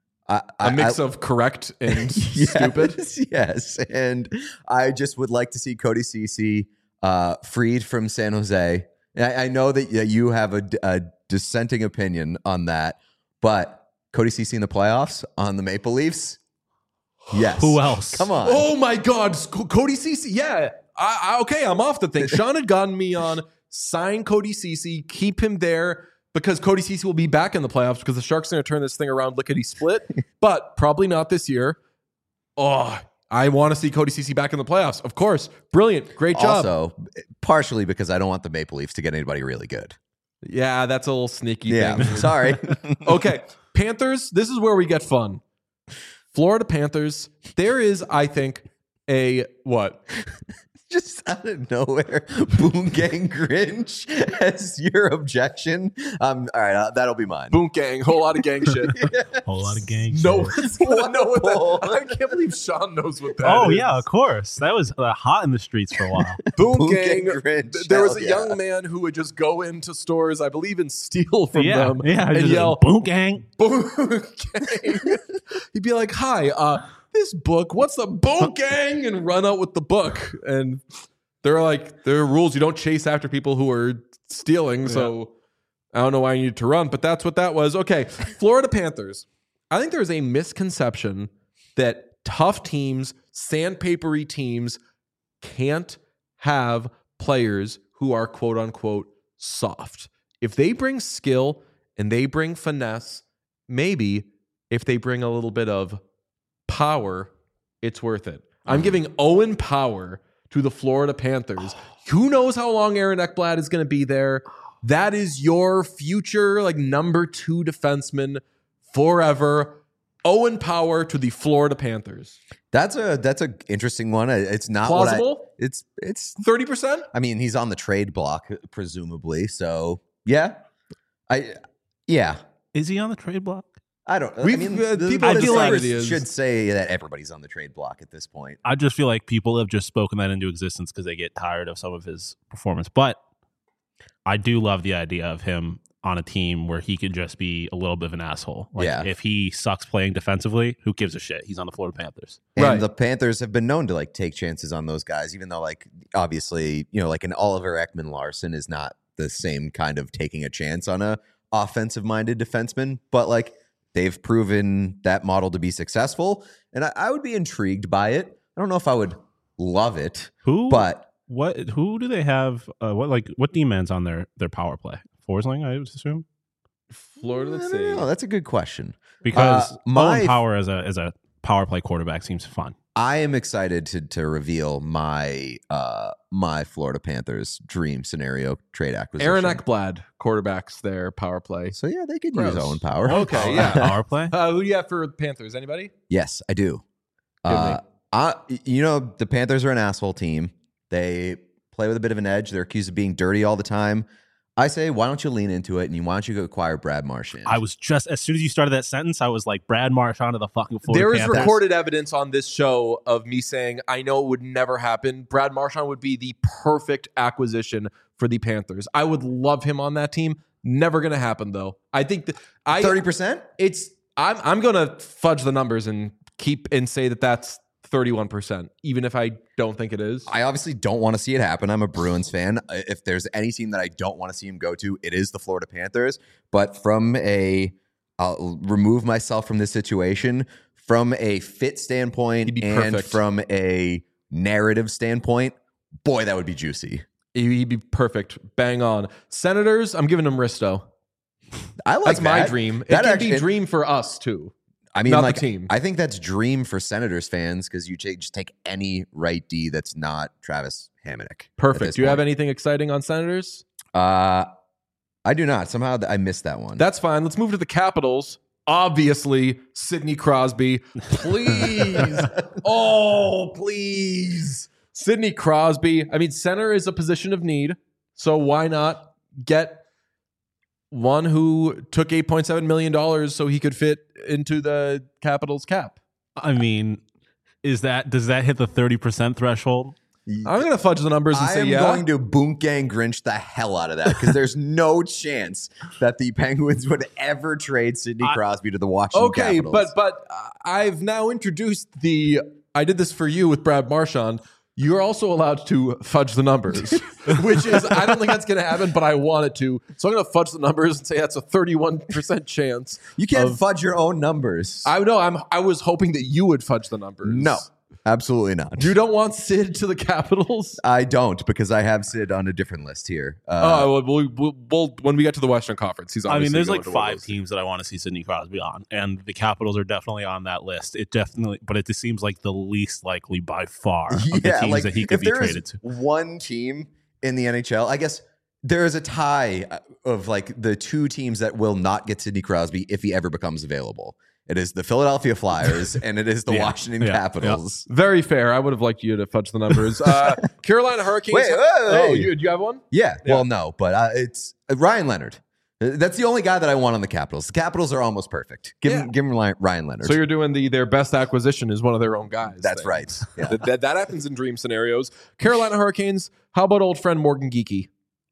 A mix of correct and yes, stupid. Yes, and I just would like to see Cody Ceci freed from San Jose. I know that you have a dissenting opinion on that, but Cody Ceci in the playoffs on the Maple Leafs. Yes. Who else? Come on. Oh my God, Cody Ceci. Yeah. Okay, I'm off the thing. Sean had gotten me on sign Cody Ceci, keep him there because Cody Ceci will be back in the playoffs because the Sharks are going to turn this thing around lickety split, but probably not this year. Oh, I want to see Cody Ceci back in the playoffs. Of course. Brilliant. Great job. Also, partially because I don't want the Maple Leafs to get anybody really good. Yeah, that's a little sneaky Yeah. thing. Sorry. Okay, Panthers, this is where we get fun. Florida Panthers, there is, I think, a what? Just out of nowhere, Boom Gang Grinch as your objection. All right, that'll be mine. Boom gang, whole lot of gang shit. Whole lot of gang. No shit. one's gonna know what that. I can't believe Sean knows what that Oh is. yeah, of course. That was hot in the streets for a while. Boom, Boom gang. Gang Grinch, There was hell a yeah. young man who would just go into stores, I believe, and steal from yeah, them yeah. and just yell, "Boom gang." "Boom gang!" He'd be like, "Hi, this book. What's the boom gang?" and run out with the book. And they're like, there are rules. You don't chase after people who are stealing. So I don't know why you need to run, but that's what that was. Okay, Florida Panthers. I think there's a misconception that tough teams, sandpapery teams, can't have players who are quote unquote soft. If they bring skill and they bring finesse, maybe if they bring a little bit of power, it's worth it. I'm giving Owen Power to the Florida Panthers. Who knows how long Aaron Ekblad is going to be there? That is your future, like number 2 defenseman forever. Owen Power to the Florida Panthers. That's a interesting one. It's not Plausible? what it's 30%? I mean, he's on the trade block presumably. So, yeah. Yeah. Is he on the trade block? I don't know. We've, I mean, people I feel like Sabres it is. should say that everybody's on the trade block at this point. I just feel like people have just spoken that into existence because they get tired of some of his performance. But I do love the idea of him on a team where he could just be a little bit of an asshole. Like Yeah. if he sucks playing defensively, who gives a shit? He's on the Florida Panthers. And Right. the Panthers have been known to like take chances on those guys, even though like obviously, like an Oliver Ekman Larson is not the same kind of taking a chance on a offensive minded defenseman, but like they've proven that model to be successful. And I would be intrigued by it. I don't know if I would love it, Who? but Who do they have? What D-man's on their power play? Forsling, I would assume, Florida, I let's don't see. know. That's a good question. because my- Owen Power as a power play quarterback seems fun. I am excited to reveal my my Florida Panthers dream scenario trade acquisition. Aaron Ekblad quarterbacks their power play. So yeah, they could Gross. use Owen Power. Okay, yeah. Power play. Who do you have for Panthers? Anybody? Yes, I do. Give me. The Panthers are an asshole team. They play with a bit of an edge. They're accused of being dirty all the time. I say, why don't you lean into it and why don't you go acquire Brad Marchand? I was just, as soon as you started that sentence, I was like, Brad Marchand to the fucking Florida There is Panthers. recorded evidence on this show of me saying, I know it would never happen. Brad Marchand would be the perfect acquisition for the Panthers. I would love him on that team. Never going to happen, though. I think 30%? I'm going to fudge the numbers and say that that's 31%, even if I don't think it is. I obviously don't want to see it happen. I'm a Bruins fan. If there's any team that I don't want to see him go to, it is the Florida Panthers. But I'll remove myself from this situation from a fit standpoint He'd be and perfect. from a narrative standpoint. Boy, that would be juicy. He'd be perfect. Bang on. Senators, I'm giving him Risto. I like That's my that. dream. It That can actually- be dream for us, too. I mean, not like, the team. I think that's dream for Senators fans because you just take any right D that's not Travis Hamonic. Perfect. Do you have anything exciting on Senators? I do not. Somehow I missed that one. That's fine. Let's move to the Capitals. Obviously, Sidney Crosby. Please. Please. Sidney Crosby. I mean, center is a position of need. So why not get one who took $8.7 million so he could fit into the Capitals cap? I mean, does that hit the 30% threshold? I'm going to fudge the numbers and I say am yeah. going to Boongang Grinch the hell out of that because there's no chance that the Penguins would ever trade Sidney Crosby to the Washington Capitals. but I've now introduced I did this for you with Brad Marchand. You're also allowed to fudge the numbers, which is, I don't think that's going to happen, but I want it to. So I'm going to fudge the numbers and say that's a 31% chance. You can't fudge your own numbers. I know. I was hoping that you would fudge the numbers. No, absolutely not. You don't want Sid to the Capitals? I don't because I have Sid on a different list here. We'll when we get to the Western Conference, he's I mean, obviously there's going like to one of 5 those. teams that I want to see Sidney Crosby on, and the Capitals are definitely on that list. But it just seems like the least likely by far of the teams that he could be traded to. One team in the NHL, I guess there is a tie of like the two teams that will not get Sidney Crosby if he ever becomes available. It is the Philadelphia Flyers and it is the Washington Capitals. Very fair. I would have liked you to fudge the numbers. Carolina Hurricanes. Wait, Oh, do you have one? Yeah, well, no, but it's Ryan Leonard. That's the only guy that I want on the Capitals. The Capitals are almost perfect. Give him Ryan Leonard. So you're doing their best acquisition is one of their own guys. That's thing. right. Yeah. That happens in dream scenarios. Carolina Hurricanes. How about old friend Morgan Geekie?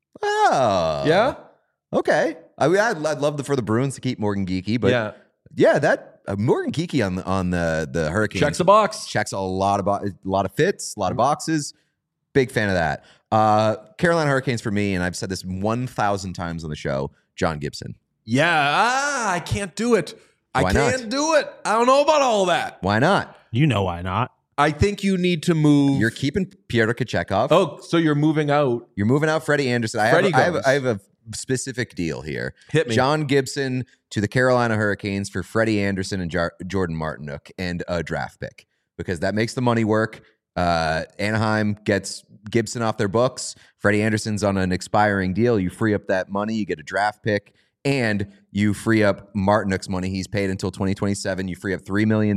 Oh, Yeah. Okay. I mean, I'd love for the Bruins to keep Morgan Geekie, but that Morgan Geekie on the Hurricanes Checks the box. checks a lot of fits, a lot of boxes. Big fan of that. Carolina Hurricanes for me, and I've said this 1,000 times on the show. John Gibson. Yeah. I can't do it. Why I not? can't do it. I don't know about all that. Why not? You know why not? I think you need to move. You're keeping Pyotr Kochekov. Oh, so you're moving out. You're moving out Freddie Anderson. I Freddie have goes. a specific deal here. Hit me. John Gibson to the Carolina Hurricanes for Freddie Anderson and Jordan Martinook and a draft pick because that makes the money work. Anaheim gets Gibson off their books. Freddie Anderson's on an expiring deal. You free up that money. You get a draft pick. And you free up Martinook's money. He's paid until 2027. You free up $3 million.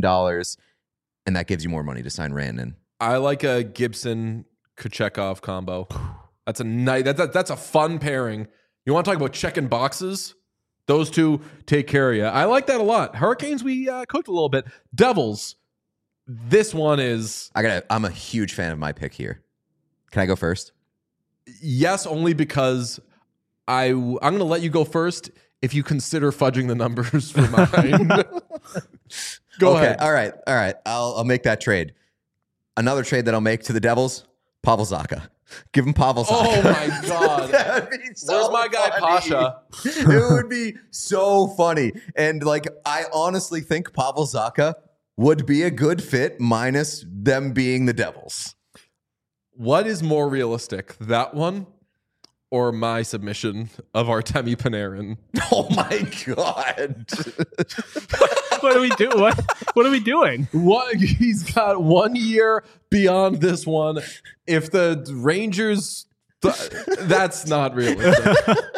And that gives you more money to sign Rantanen. I like a Gibson Kochekov combo. That's a nice. That's a fun pairing. You want to talk about checking boxes? Those two take care of you. I like that a lot. Hurricanes, we cooked a little bit. Devils. This one is I'm a huge fan of my pick here. Can I go first? yes, only because I'm going to let you go first if you consider fudging the numbers for mine. Go ahead. All right. I'll make that trade. Another trade that I'll make to the Devils, Pavel Zacha. Give him Pavel Zacha. Oh my God. That would be so Where's my guy, funny. Pasha? It would be so funny. And like, I honestly think Pavel Zacha would be a good fit minus them being the Devils. What is more realistic, that one or my submission of Artemi Panarin? Oh my God. What do we do? What? What are we doing? He's got 1 year beyond this one. If the Rangers, that's not realistic.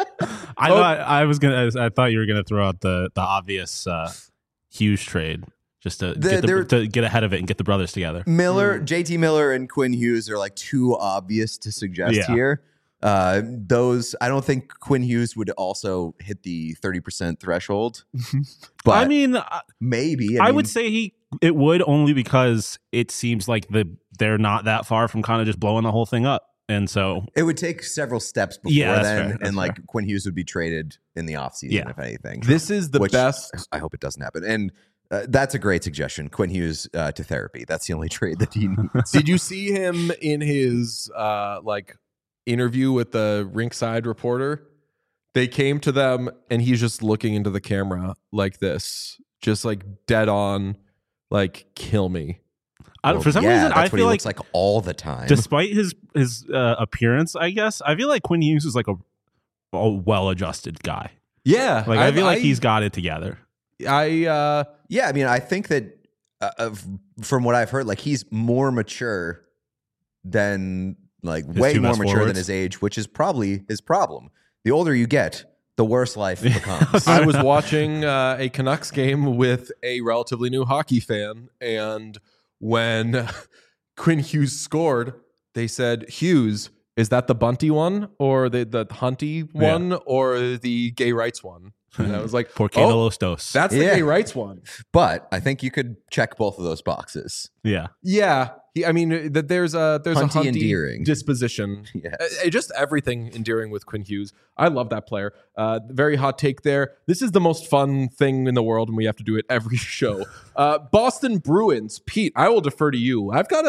I thought you were gonna throw out the obvious Hughes trade just to get ahead of it and get the brothers together. JT Miller and Quinn Hughes are like too obvious to suggest here. Those, I don't think Quinn Hughes would also hit the 30% threshold. But I mean, maybe. I would say it would, only because it seems like they're not that far from kind of just blowing the whole thing up. And so it would take several steps before then. And like Quinn Hughes would be traded in the offseason, if anything. This is the best. I hope it doesn't happen. And that's a great suggestion. Quinn Hughes to therapy. That's the only trade that he needs. Did you see him in his interview with the rinkside reporter? They came to them and he's just looking into the camera like this, just like dead on, like, kill me. For some reason, I feel looks like all the time. Despite his appearance, I guess I feel like Quinn Hughes is like a well-adjusted guy. Yeah, like I feel like he's got it together. I mean, I think that from what I've heard, like he's more mature than way more mature than his age, which is probably his problem. The older you get, the worse life becomes. I was watching a Canucks game with a relatively new hockey fan, and when Quinn Hughes scored, they said, "Hughes, is that the Bunty one or the Hunty one or the gay rights one?" And I was like, "Por qué no los dos?" That's the gay rights one. But I think you could check both of those boxes. Yeah. I mean, that there's a Hunty endearing disposition. Yes. Just everything endearing with Quinn Hughes. I love that player. Very hot take there. This is the most fun thing in the world, and we have to do it every show. Boston Bruins. Pete, I will defer to you. I got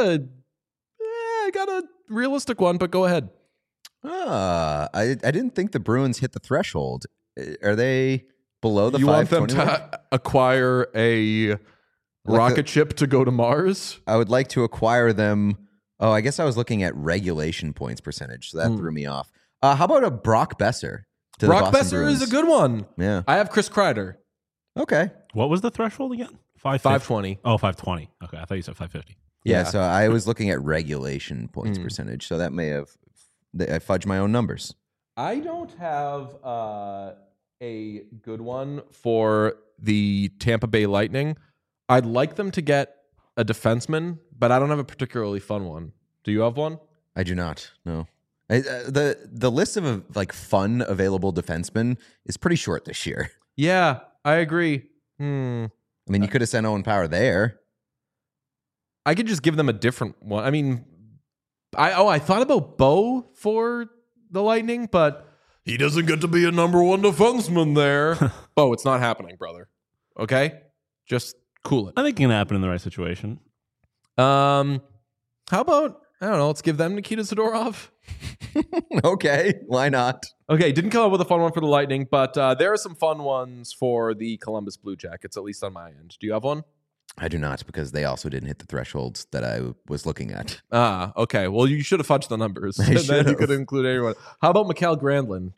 a realistic one, but go ahead. I didn't think the Bruins hit the threshold. Are they below the 520? You want them to acquire a rocket ship to go to Mars? I would like to acquire them. Oh, I guess I was looking at regulation points percentage, so that threw me off. How about a Brock Besser? Brock Besser is a good one. Yeah. I have Chris Kreider. Okay. What was the threshold again? 520. Oh, 520. Okay, I thought you said 550. Yeah, so I was looking at regulation points percentage, so that may have I fudged my own numbers. I don't have a good one for the Tampa Bay Lightning. I'd like them to get a defenseman, but I don't have a particularly fun one. Do you have one? I do not. No. The list of fun available defensemen is pretty short this year. Yeah, I agree. I mean, you could have sent Owen Power there. I could just give them a different one. I mean, I thought about Bo for the Lightning, but he doesn't get to be a number one defenseman there. Bo, it's not happening, brother. Okay? Just cool it. I think it can happen in the right situation. How about, I don't know, let's give them Nikita Zadorov? Okay, why not? Okay, didn't come up with a fun one for the Lightning, but there are some fun ones for the Columbus Blue Jackets, at least on my end. Do you have one? I do not, because they also didn't hit the thresholds that I was looking at. Okay. Well, you should have fudged the numbers. Then you could include anyone. How about Mikael Granlund?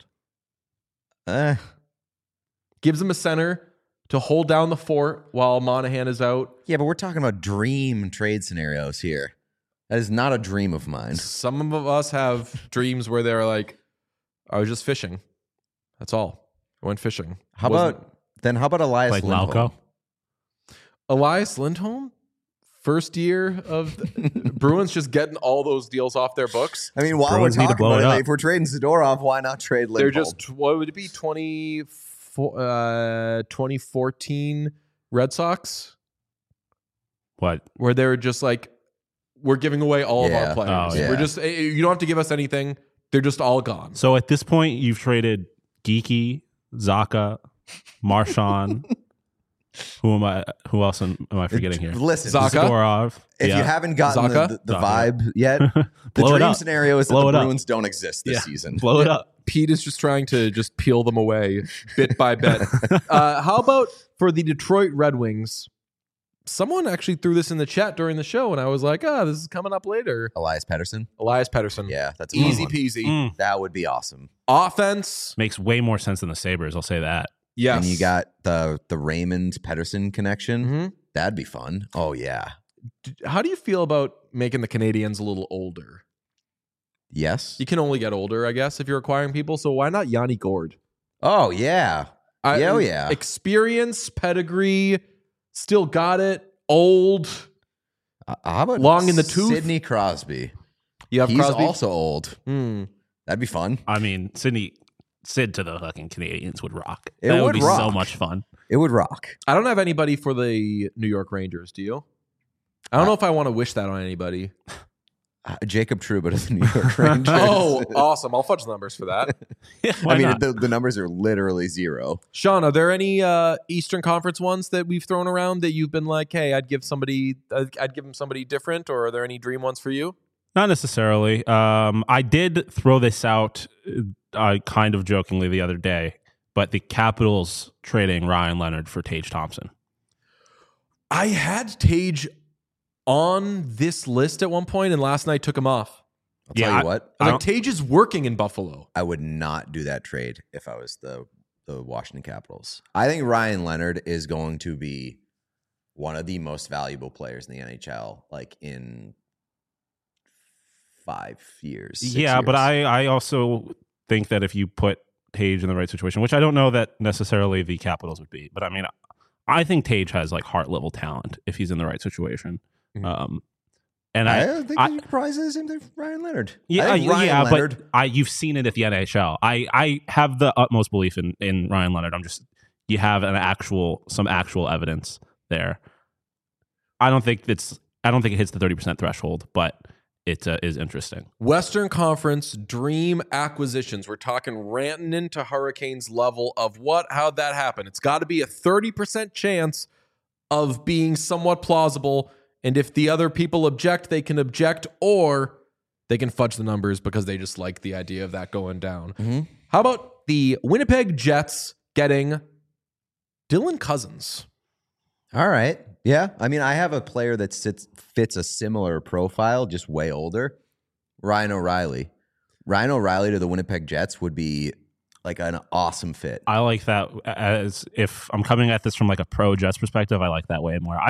Gives him a center to hold down the fort while Monahan is out. Yeah, but we're talking about dream trade scenarios here. That is not a dream of mine. Some of us have dreams where they're like, I was just fishing. That's all. I went fishing. How about Elias Lindholm? Lauco? Elias Lindholm? First year of Bruins just getting all those deals off their books. I mean, while Bruins we're need to talking blow about it it, up. if we're trading Zadorov, why not trade Lindholm? They're just, what would it be, 2014 Red Sox? What? Where they're just like, we're giving away all of our players. Oh, yeah. We're just, you don't have to give us anything. They're just all gone. So at this point, you've traded Geeky, Zaka, Marchand. Who else am I forgetting here? Listen, Zaka? Zadorov. if you haven't gotten Zaka? the vibe yet, the Blow it dream up. scenario is that Blow the it up. Bruins don't exist this season. Blow it up. Pete is just trying to just peel them away bit by bit. How about for the Detroit Red Wings? Someone actually threw this in the chat during the show, and I was like, this is coming up later. Elias Pettersson? Elias Pettersson. Yeah, that's a fun Easy one. peasy. That would be awesome. Offense. Makes way more sense than the Sabres, I'll say that. Yes. And you got the Raymond Pedersen connection. Mhm. That'd be fun. Oh yeah. How do you feel about making the Canadians a little older? Yes. You can only get older, I guess, if you're acquiring people. So why not Yanni Gord? Oh yeah. Yeah. Experience, pedigree, still got it. Old. How about Long in the tooth? Sidney Crosby? You have He's Crosby. also old. Hmm. That'd be fun. I mean, Sid to the fucking Canadians would rock. It That would be rock. so much fun. It would rock. I don't have anybody for the New York Rangers. Do you? I don't know if I want to wish that on anybody. Jacob Trouba to the New York Rangers. Oh, awesome. I'll fudge the numbers for that. Why I mean, not? the numbers are literally 0. Sean, are there any Eastern Conference ones that we've thrown around that you've been like, hey, I'd give them somebody different, or are there any dream ones for you? Not necessarily. I did throw this out kind of jokingly the other day, but the Capitals trading Ryan Leonard for Tage Thompson. I had Tage on this list at one point, and last night took him off. I'll tell you what. I was like, Tage is working in Buffalo. I would not do that trade if I was the Washington Capitals. I think Ryan Leonard is going to be one of the most valuable players in the NHL, like in 5 years. 6 Yeah, but years. I also think that if you put Tage in the right situation, which I don't know that necessarily the Capitals would be, but I mean, I think Tage has like heart level talent if he's in the right situation. Mhm. And I think you could probably say the same thing for Ryan Leonard. Yeah, I think Ryan Leonard, but you've seen it at the NHL. I have the utmost belief in Ryan Leonard. You have some actual evidence there. I don't think it hits the 30% threshold, but it is interesting. Western Conference dream acquisitions. We're talking ranting into Hurricanes level of how'd that happen? It's got to be a 30% chance of being somewhat plausible. And if the other people object, they can object, or they can fudge the numbers because they just like the idea of that going down. Mhm. How about the Winnipeg Jets getting Dylan Cousins? All right. Yeah. I mean, I have a player that fits a similar profile, just way older. Ryan O'Reilly. Ryan O'Reilly to the Winnipeg Jets would be like an awesome fit. I like that. As if I'm coming at this from like a pro Jets perspective, I like that way more.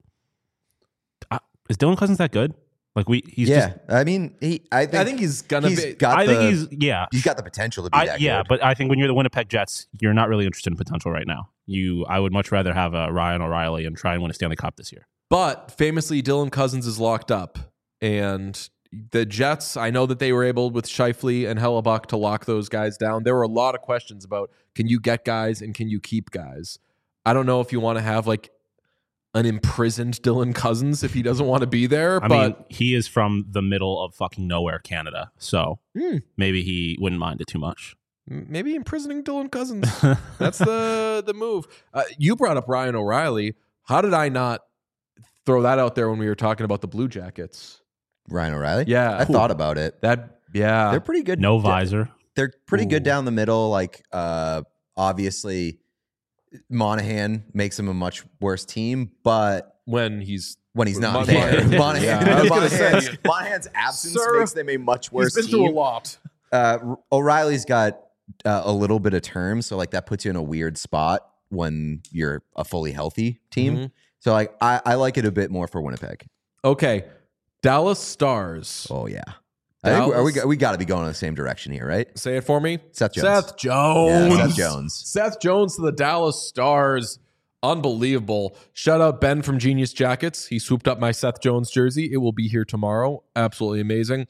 Is Dylan Cousins that good? Like he's yeah. I mean, I think he's gonna be. He's got the potential to be that good. But I think when you're the Winnipeg Jets, you're not really interested in potential right now. I would much rather have a Ryan O'Reilly and try and win a Stanley Cup this year. But famously, Dylan Cousins is locked up, and the Jets, I know that they were able with Scheifele and Hellebuck to lock those guys down. There were a lot of questions about, can you get guys and can you keep guys? I don't know if you want to have like an imprisoned Dylan Cousins if he doesn't want to be there. I mean, he is from the middle of fucking nowhere, Canada. So maybe he wouldn't mind it too much. Maybe imprisoning Dylan Cousins. That's the move. You brought up Ryan O'Reilly. How did I not throw that out there when we were talking about the Blue Jackets? Ryan O'Reilly? Yeah. I thought about it. They're pretty good. No visor. They're pretty good Ooh. down the middle. Like, obviously, Monahan makes him a much worse team, but when he's not there, Monahan. Monahan's absence Sir, makes them a much worse he's been through a team. lot. O'Reilly's got a little bit of term, so like that puts you in a weird spot when you're a fully healthy team. Mhm. So like I like it a bit more for Winnipeg. Okay, Dallas Stars. Oh yeah, I think Dallas. we got to be going in the same direction here, right? Say it for me. Seth Jones. Seth Jones. Yeah, Seth Jones. Seth Jones to the Dallas Stars. Unbelievable. Shout out Ben from Genius Jackets. He swooped up my Seth Jones jersey. It will be here tomorrow. Absolutely amazing.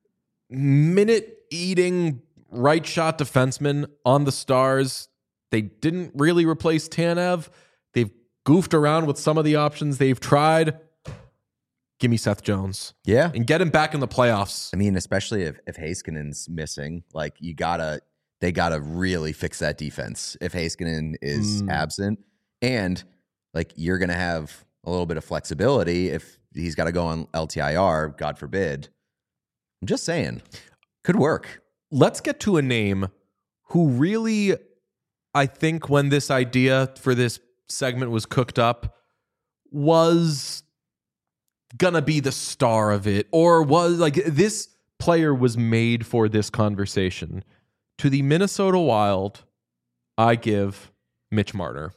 Minute eating right shot defenseman on the Stars. They didn't really replace Tanev. They've goofed around with some of the options they've tried. Give me Seth Jones. Yeah. And get him back in the playoffs. I mean, especially if Heiskanen's missing, like they gotta really fix that defense if Heiskanen is absent. And like you're gonna have a little bit of flexibility if he's got to go on LTIR, God forbid. I'm just saying, could work. Let's get to a name who really, I think when this idea for this segment was cooked up, was gonna be the star of it, or was like this player was made for this conversation. To the Minnesota Wild, I give Mitch Marner.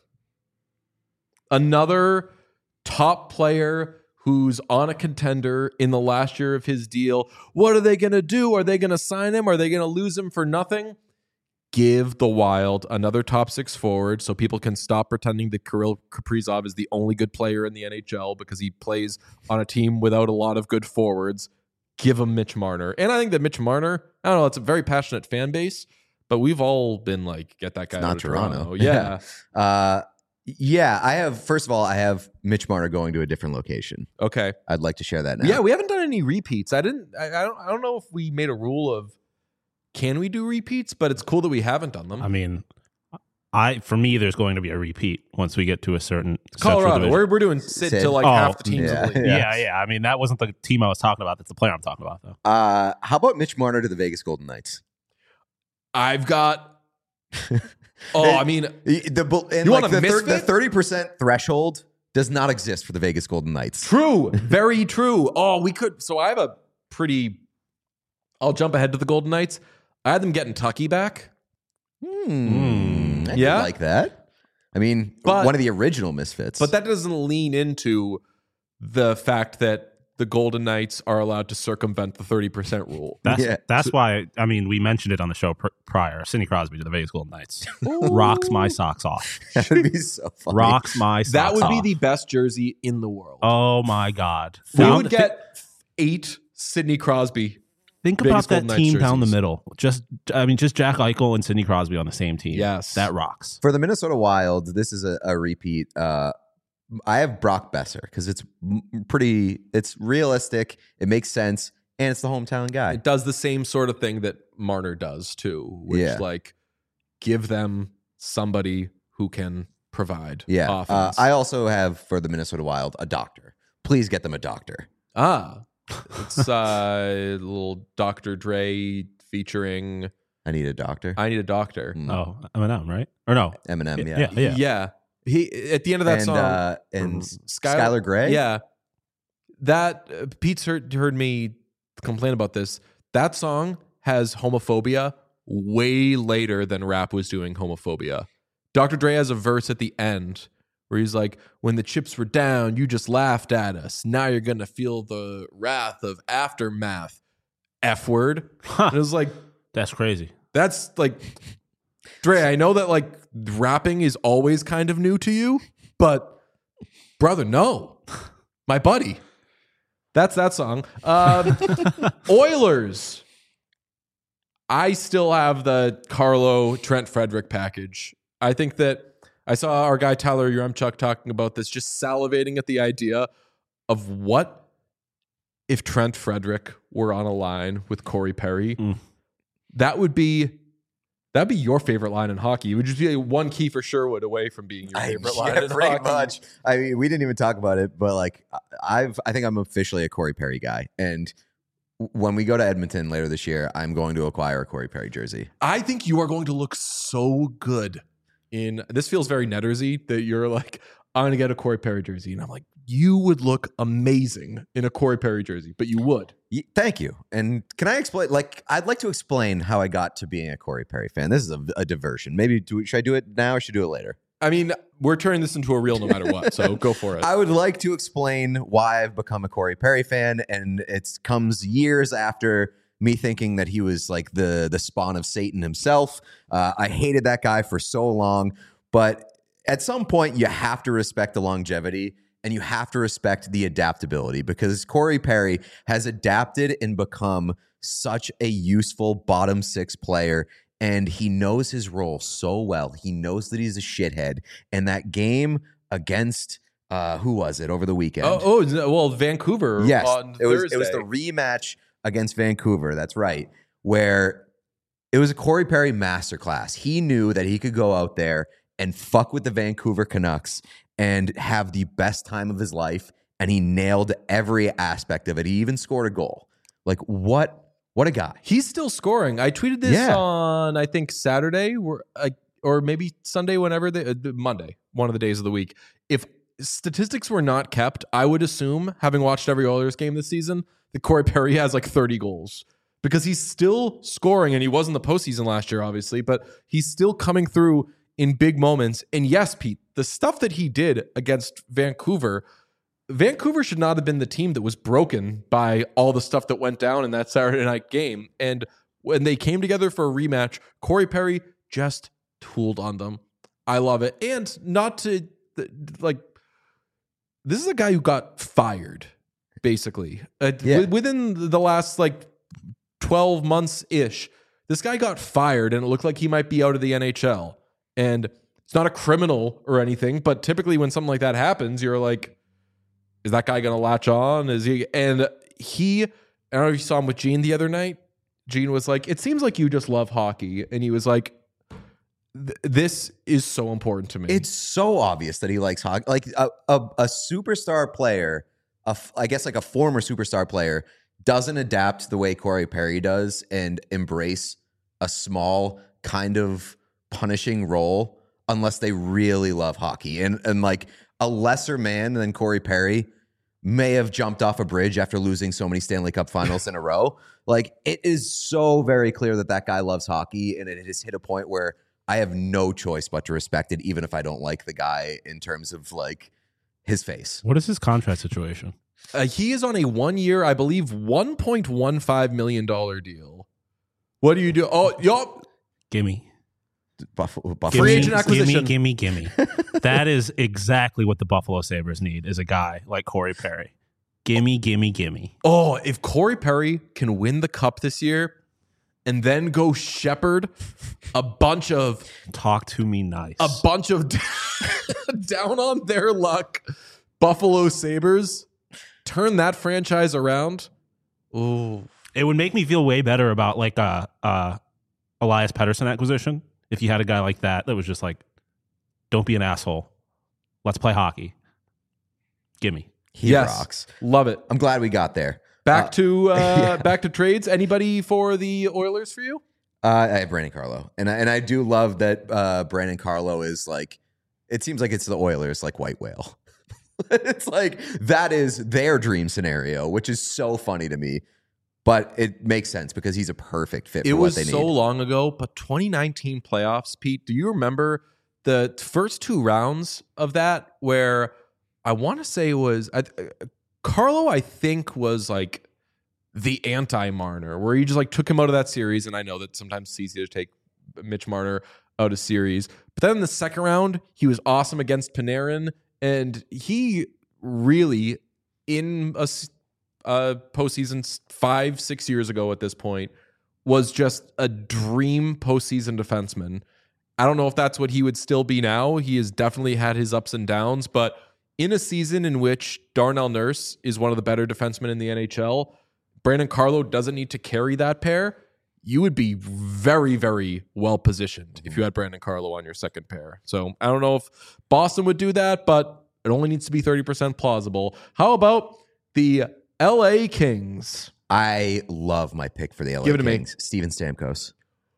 Another top player who's on a contender in the last year of his deal. What are they going to do? Are they going to sign him? Are they going to lose him for nothing? Give the Wild another top 6 forward so people can stop pretending that Kirill Kaprizov is the only good player in the NHL because he plays on a team without a lot of good forwards. Give him Mitch Marner. And I think that Mitch Marner, I don't know, it's a very passionate fan base, but we've all been like, get that guy out of Toronto. Yeah. Yeah, I have. First of all, I have Mitch Marner going to a different location. Okay. I'd like to share that now. Yeah, we haven't done any repeats. I don't know if we made a rule of can we do repeats, but it's cool that we haven't done them. I mean, for me, there's going to be a repeat once we get to a certain Colorado. We're doing Sid to like half the teams in the league. Yeah. I mean, that wasn't the team I was talking about. That's the player I'm talking about, though. How about Mitch Marner to the Vegas Golden Knights? I've got. I mean, the 30% threshold does not exist for the Vegas Golden Knights. True, very true. Oh, we could. So I have a pretty. I'll jump ahead to the Golden Knights. I had them getting Tucky back. I like that. I mean, one of the original Misfits. But that doesn't lean into the fact that the Golden Knights are allowed to circumvent the 30% rule. That's why, I mean, we mentioned it on the show prior. Sidney Crosby to the Vegas Golden Knights. Rocks my socks off. That would be so funny. Rocks my socks off. That would be the best jersey in the world. Oh, my God. We would get 8 Sidney Crosby. Think Vegas about that Golden team Knights down the jerseys. middle. Just Jack Eichel and Sidney Crosby on the same team. Yes. That rocks. For the Minnesota Wild, this is a repeat. I have Brock Besser because it's realistic, it makes sense, and it's the hometown guy. It does the same sort of thing that Marner does too, which like give them somebody who can provide offense. I also have for the Minnesota Wild a doctor. Please get them a doctor. It's little Dr. Dre featuring I Need a Doctor. I Need a Doctor. Oh, Eminem, right? Or no? Eminem, Yeah. He at the end of that song and Skylar Gray. Yeah, that Pete's heard me complain about this. That song has homophobia way later than rap was doing homophobia. Dr. Dre has a verse at the end where he's like, "When the chips were down, you just laughed at us. Now you're gonna feel the wrath of aftermath." F word. And it was like, that's crazy. That's like. Dre, I know that like rapping is always kind of new to you, but brother, no, my buddy, that's that song. Oilers. I still have the Carlo Trent Frederick package. I think that I saw our guy Tyler Yaremchuk talking about this, just salivating at the idea of what if Trent Frederick were on a line with Corey Perry. That'd be your favorite line in hockey. It would just be like one Kiefer Sherwood away from being your favorite line in pretty hockey. much. I mean, we didn't even talk about it, but like I think I'm officially a Corey Perry guy. And when we go to Edmonton later this year, I'm going to acquire a Corey Perry jersey. I think you are going to look so good in this. Feels very Nettersy that you're like, I'm going to get a Corey Perry jersey. And I'm like, you would look amazing in a Corey Perry jersey, but you would. Thank you. And can I explain? Like, I'd like to explain how I got to being a Corey Perry fan. This is a diversion. Maybe should I do it now or should I do it later? I mean, we're turning this into a reel no matter what, so go for it. I would like to explain why I've become a Corey Perry fan, and it comes years after me thinking that he was like the spawn of Satan himself. I hated that guy for so long, but at some point you have to respect the longevity and you have to respect the adaptability, because Corey Perry has adapted and become such a useful bottom 6 player. And he knows his role so well. He knows that he's a shithead. And that game against who was it over the weekend? Well, Vancouver. Yes, on it was Thursday. the rematch against Vancouver. That's right, where it was a Corey Perry masterclass. He knew that he could go out there and fuck with the Vancouver Canucks and have the best time of his life. And he nailed every aspect of it. He even scored a goal. Like what a guy. He's still scoring. I tweeted this on, I think, Saturday or maybe Sunday, whenever Monday, one of the days of the week. If statistics were not kept, I would assume, having watched every Oilers game this season, that Corey Perry has like 30 goals because he's still scoring, and he was in the postseason last year, obviously, but he's still coming through in big moments. And yes, Pete, the stuff that he did against Vancouver should not have been the team that was broken by all the stuff that went down in that Saturday night game. And when they came together for a rematch, Corey Perry just tooled on them. I love it. And not to, like, this is a guy who got fired, basically. Within the last, 12 months-ish, this guy got fired, and it looked like he might be out of the NHL. And it's not a criminal or anything, but typically when something like that happens, you're like, is that guy going to latch on? Is he? And I don't know if you saw him with Gene the other night. Gene was like, it seems like you just love hockey. And he was like, this is so important to me. It's so obvious that he likes hockey. Like a superstar player, I guess like a former superstar player, doesn't adapt the way Corey Perry does and embrace a small kind of punishing role unless they really love hockey. And like a lesser man than Corey Perry may have jumped off a bridge after losing so many Stanley Cup finals in a row. Like, it is so very clear that guy loves hockey, and it has hit a point where I have no choice but to respect it, even if I don't like the guy in terms of like his face. What is his contract situation? He is on a 1 year, I believe, $1.15 million deal. What do you do? Oh, yup. Gimme. Buffalo. Free agent acquisition. Gimme. That is exactly what the Buffalo Sabres need, is a guy like Corey Perry. Gimme. Oh, if Corey Perry can win the cup this year and then go shepherd a bunch of talk to me nice, a bunch of down on their luck Buffalo Sabres, turn that franchise around. Ooh, it would make me feel way better about like Elias Pettersson acquisition. If you had a guy like that was just like, don't be an asshole. Let's play hockey. Gimme. He rocks. Love it. I'm glad we got there. Back to trades. Anybody for the Oilers for you? I have Brandon Carlo. And I do love that Brandon Carlo is like, it seems like it's the Oilers like White Whale. It's like, that is their dream scenario, which is so funny to me. But it makes sense because he's a perfect fit for what they need. It was so long ago, but 2019 playoffs, Pete, do you remember the first two rounds of that where I want to say it was Carlo, I think, was like the anti-Marner, where he just like took him out of that series. And I know that sometimes it's easy to take Mitch Marner out of series. But then in the second round, he was awesome against Panarin. And he really, in a postseason 5-6 years ago at this point, was just a dream postseason defenseman. I don't know if that's what he would still be now. He has definitely had his ups and downs, but in a season in which Darnell Nurse is one of the better defensemen in the NHL, Brandon Carlo doesn't need to carry that pair. You would be very, very well positioned if you had Brandon Carlo on your second pair. So I don't know if Boston would do that, but it only needs to be 30% plausible. How about the LA Kings? I love my pick for the LA Kings. Steven Stamkos.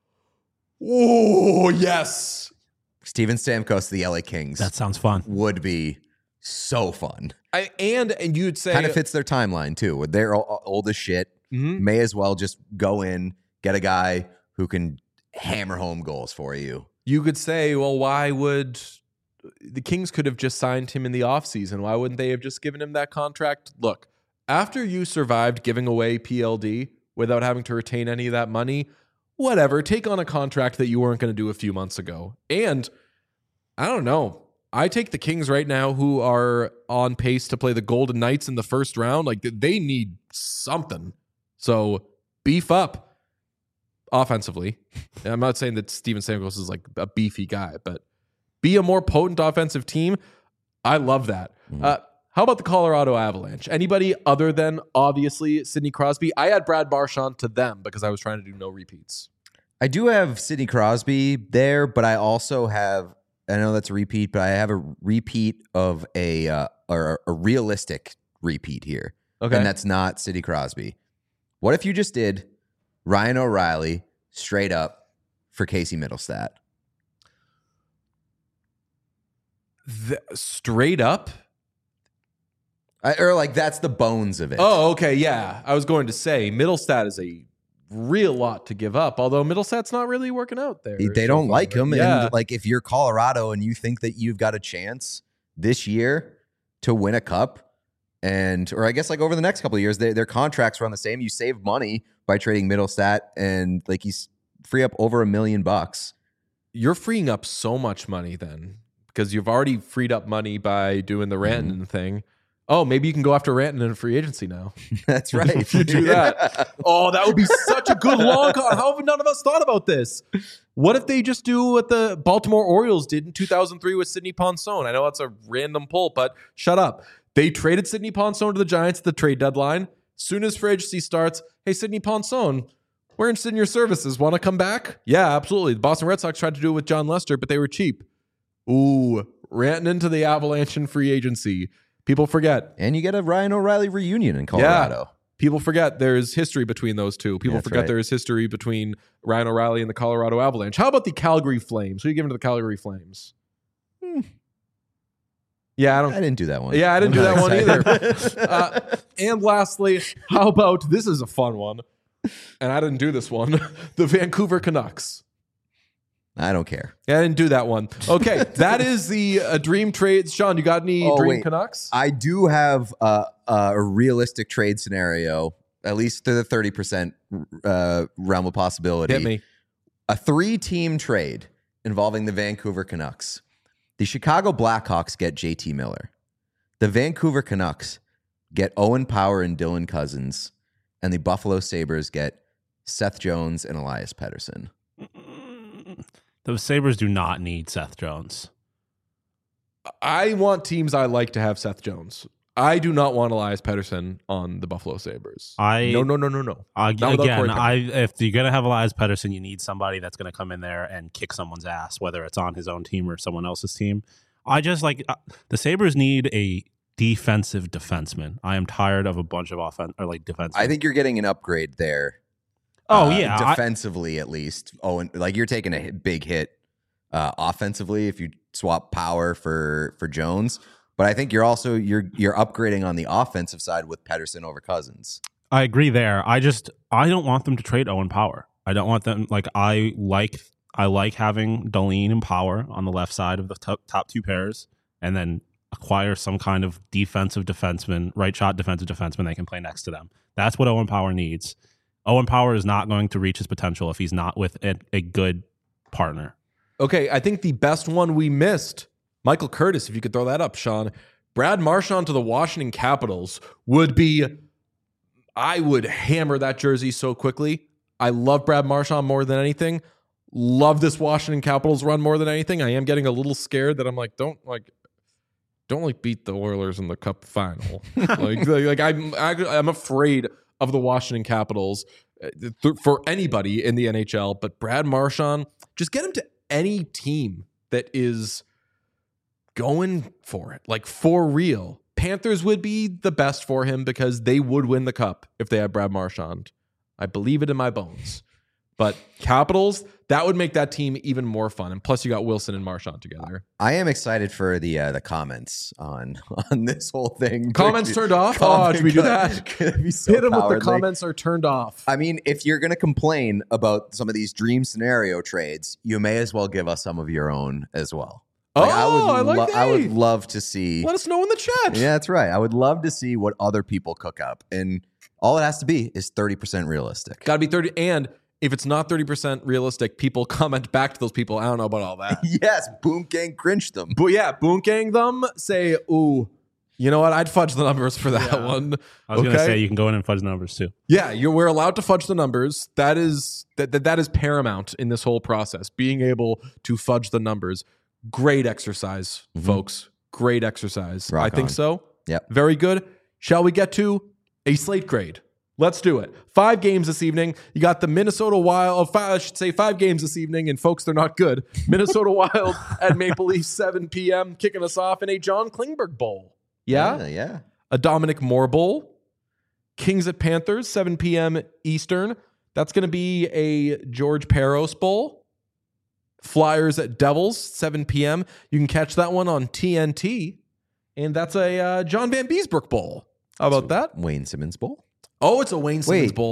Oh, yes. Steven Stamkos, the LA Kings. That sounds fun. Would be so fun. And you'd say... kind of fits their timeline, too. They're old as shit. Mm-hmm. May as well just go in, get a guy who can hammer home goals for you. You could say, well, why would... the Kings could have just signed him in the offseason. Why wouldn't they have just given him that contract? Look, after you survived giving away PLD without having to retain any of that money, whatever, take on a contract that you weren't going to do a few months ago. And I don't know. I take the Kings right now, who are on pace to play the Golden Knights in the first round. Like, they need something. So beef up offensively. And I'm not saying that Steven Stamkos is like a beefy guy, but be a more potent offensive team. I love that. How about the Colorado Avalanche? Anybody other than, obviously, Sidney Crosby? I had Brad Marchand to them because I was trying to do no repeats. I do have Sidney Crosby there, but I also have, I know that's a repeat, but I have a repeat of a realistic repeat here. Okay. And that's not Sidney Crosby. What if you just did Ryan O'Reilly straight up for Casey Middlestat? Straight up? Or like that's the bones of it. Oh, okay, yeah. I was going to say Middlestat is a real lot to give up. Although Middlesett's not really working out there. They so don't far. like him. Yeah. And like, if you're Colorado and you think that you've got a chance this year to win a cup, or I guess like over the next couple of years, their contracts run the same. You save money by trading Middlestat, and like he's free up over $1 million. You're freeing up so much money then, because you've already freed up money by doing the Rantanen thing. Oh, maybe you can go after Rantanen in free agency now. That's right. If you do that. Oh, that would be such a good long con. How have none of us thought about this? What if they just do what the Baltimore Orioles did in 2003 with Sidney Ponson? I know that's a random pull, but shut up. They traded Sidney Ponson to the Giants at the trade deadline. Soon as free agency starts, hey, Sidney Ponson, we're interested in your services. Want to come back? Yeah, absolutely. The Boston Red Sox tried to do it with John Lester, but they were cheap. Ooh, Rantanen to the Avalanche in free agency. People forget. And you get a Ryan O'Reilly reunion in Colorado. Yeah. People forget there's history between those two. People That's forget right. there is history between Ryan O'Reilly and the Colorado Avalanche. How about the Calgary Flames? Who are you giving to the Calgary Flames? Yeah, I I didn't do that one. Yeah, I didn't I'm do that not one excited. either. And lastly, how about, this is a fun one, and I didn't do this one, the Vancouver Canucks. I don't care. Yeah, I didn't do that one. Okay, that is the dream trades. Sean, you got any dream wait. Canucks? I do have a realistic trade scenario, at least to the 30% realm of possibility. Hit me. A 3-team trade involving the Vancouver Canucks. The Chicago Blackhawks get JT Miller. The Vancouver Canucks get Owen Power and Dylan Cousins. And the Buffalo Sabres get Seth Jones and Elias Pettersson. The Sabres do not need Seth Jones. I want teams I like to have Seth Jones. I do not want Elias Pettersson on the Buffalo Sabres. No. Again, without Corey Perry. if you're going to have Elias Pettersson, you need somebody that's going to come in there and kick someone's ass, whether it's on his own team or someone else's team. I just like the Sabres need a defensive defenseman. I am tired of a bunch of defensemen. I think you're getting an upgrade there. Defensively, at least. Owen, like you're taking a big hit offensively if you swap Power for Jones. But I think you're upgrading on the offensive side with Pettersson over Cousins. I agree there. I don't want them to trade Owen Power. I don't want them I like having Dahlin and Power on the left side of the top two pairs, and then acquire some kind of defensive defenseman, right shot defensive defenseman that can play next to them. That's what Owen Power needs. Owen Power is not going to reach his potential if he's not with a good partner. Okay, I think the best one we missed, Michael Curtis, if you could throw that up, Sean. Brad Marchand to the Washington Capitals would be, I would hammer that jersey so quickly. I love Brad Marchand more than anything. Love this Washington Capitals run more than anything. I am getting a little scared that I'm like, don't beat the Oilers in the Cup final. I'm afraid of the Washington Capitals for anybody in the NHL. But Brad Marchand, just get him to any team that is going for it, like for real. Panthers would be the best for him because they would win the Cup if they had Brad Marchand. I believe it in my bones. But Capitals, that would make that team even more fun. And plus, you got Wilson and Marchand together. I am excited for the comments on this whole thing. Comments turned off? Should we do that? Hit them with the comments are turned off. I mean, if you're going to complain about some of these dream scenario trades, you may as well give us some of your own as well. I would love to see. Let us know in the chat. Yeah, that's right. I would love to see what other people cook up. And all it has to be is 30% realistic. Got to be 30. And if it's not 30% realistic, people comment back to those people. I don't know about all that. Yes, Boom Gang cringe them. But yeah, Boom Gang them. Say, ooh, you know what? I'd fudge the numbers for that one. I was going to say you can go in and fudge the numbers too. Yeah, we're allowed to fudge the numbers. That is paramount in this whole process. Being able to fudge the numbers. Great exercise, folks. Great exercise. Rock I think on. so. Yep. Very good. Shall we get to a slate grade? Let's do it. 5 games this evening. You got the Minnesota Wild. I should say 5 games this evening, and folks, they're not good. Minnesota Wild at Maple Leafs, 7 p.m., kicking us off in a John Klingberg Bowl. Yeah? Yeah. A Dominic Moore Bowl. Kings at Panthers, 7 p.m. Eastern. That's going to be a George Peros Bowl. Flyers at Devils, 7 p.m. You can catch that one on TNT. And that's a John Van Beesbrook Bowl. How about that? Wayne Simmons Bowl. Oh, it's a Wayne Simmons Bowl.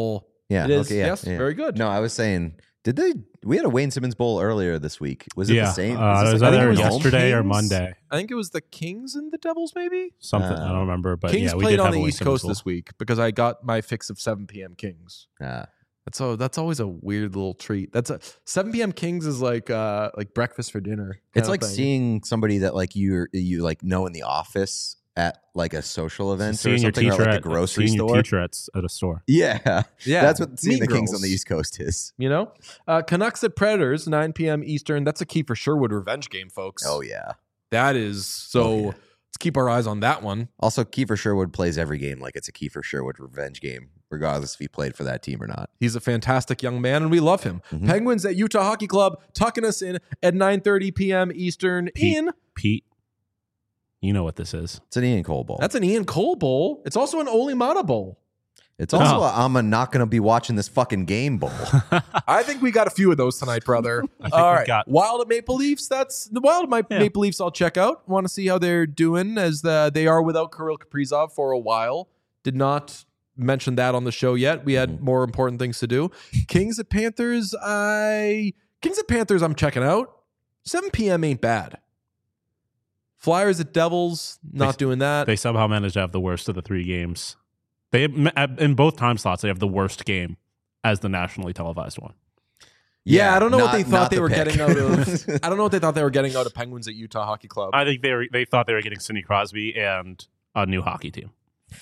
Yeah. It is. Okay, yeah, Yes, yeah. very good. No, I was saying, we had a Wayne Simmons Bowl earlier this week. Was it Yeah, the same? it was I think either it was yesterday or Kings. Monday. I think it was the Kings and the Devils, maybe. Something I don't remember, but Kings yeah, we played did on have the a Wayne East Simmons Coast Bowl. this week because I got my fix of 7 p.m. Kings. That's always a weird little treat. 7 p.m. Kings is like breakfast for dinner. It's kind like of thing. seeing somebody that like you like know in the office at like a social event or Seeing your something, or teacher like at the grocery seeing your store. teacher at a store. Yeah, Yeah, that's what seeing Mean the Kings Girls. on the East Coast is. You know, Canucks at Predators, 9 p.m. Eastern. That's a Kiefer Sherwood revenge game, folks. Oh yeah. That is so. Oh, yeah. Let's keep our eyes on that one. Also, Kiefer Sherwood plays every game like it's a Kiefer Sherwood revenge game, regardless if he played for that team or not. He's a fantastic young man, and we love him. Mhm. Penguins at Utah Hockey Club, tucking us in at 9:30 p.m. Eastern. Pete, you know what this is. It's an Ian Cole Bowl. That's an Ian Cole Bowl. It's also an Oli Mata Bowl. It's also Oh. I'm not going to be watching this fucking game bowl. I think we got a few of those tonight, brother. think All we right. got- Wild at Maple Leafs. That's the Wild at Maple Leafs. I'll check out. Want to see how they're doing as they are without Kirill Kaprizov for a while. Did not mention that on the show yet. We had more important things to do. Kings at Panthers. I'm checking out. 7 p.m. ain't bad. Flyers at Devils. Not doing that. They somehow managed to have the worst of the three games. They in both time slots they have the worst game as the nationally televised one. Yeah, I don't know what not- they thought not they the were pick. getting out of. I don't know what they thought they were getting out of Penguins at Utah Hockey Club. I think they thought they were getting Sidney Crosby and a new hockey team,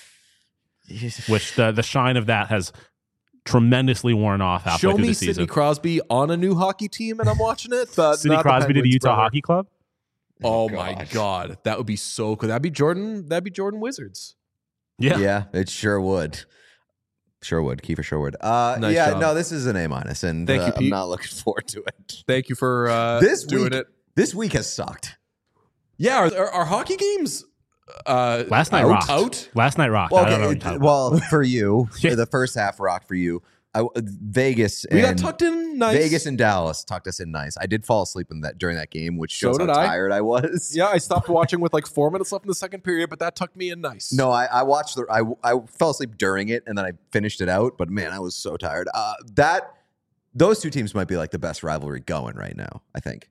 which the shine of that has tremendously worn off halfway Show through me the Sidney season. Crosby on a new hockey team, and I'm watching it. But Sidney not the Crosby to the Penguins, Utah brother. Hockey Club. Oh my god, that would be so cool. That'd be Jordan Wizards. Yeah. Yeah, it sure would. Sherwood, Kiefer Sherwood. Nice yeah, job. no, this is an A-, and Thank you, I'm Pete. not looking forward to it. Thank you for This doing week, it. This week has sucked. Yeah, are hockey games Last night out? rocked. Out? Last night rocked. Well, I don't know. okay, what you're talking about. well, for you, Yeah. the first half rocked for you. Vegas We got and tucked in nice. Vegas and Dallas tucked us in nice. I did fall asleep during that game, which So shows how did I. tired I was. Yeah, I stopped watching with like 4 minutes left in the second period, but that tucked me in nice. No, I watched I fell asleep during it and then I finished it out. But man, I was so tired. Those two teams might be like the best rivalry going right now. I think.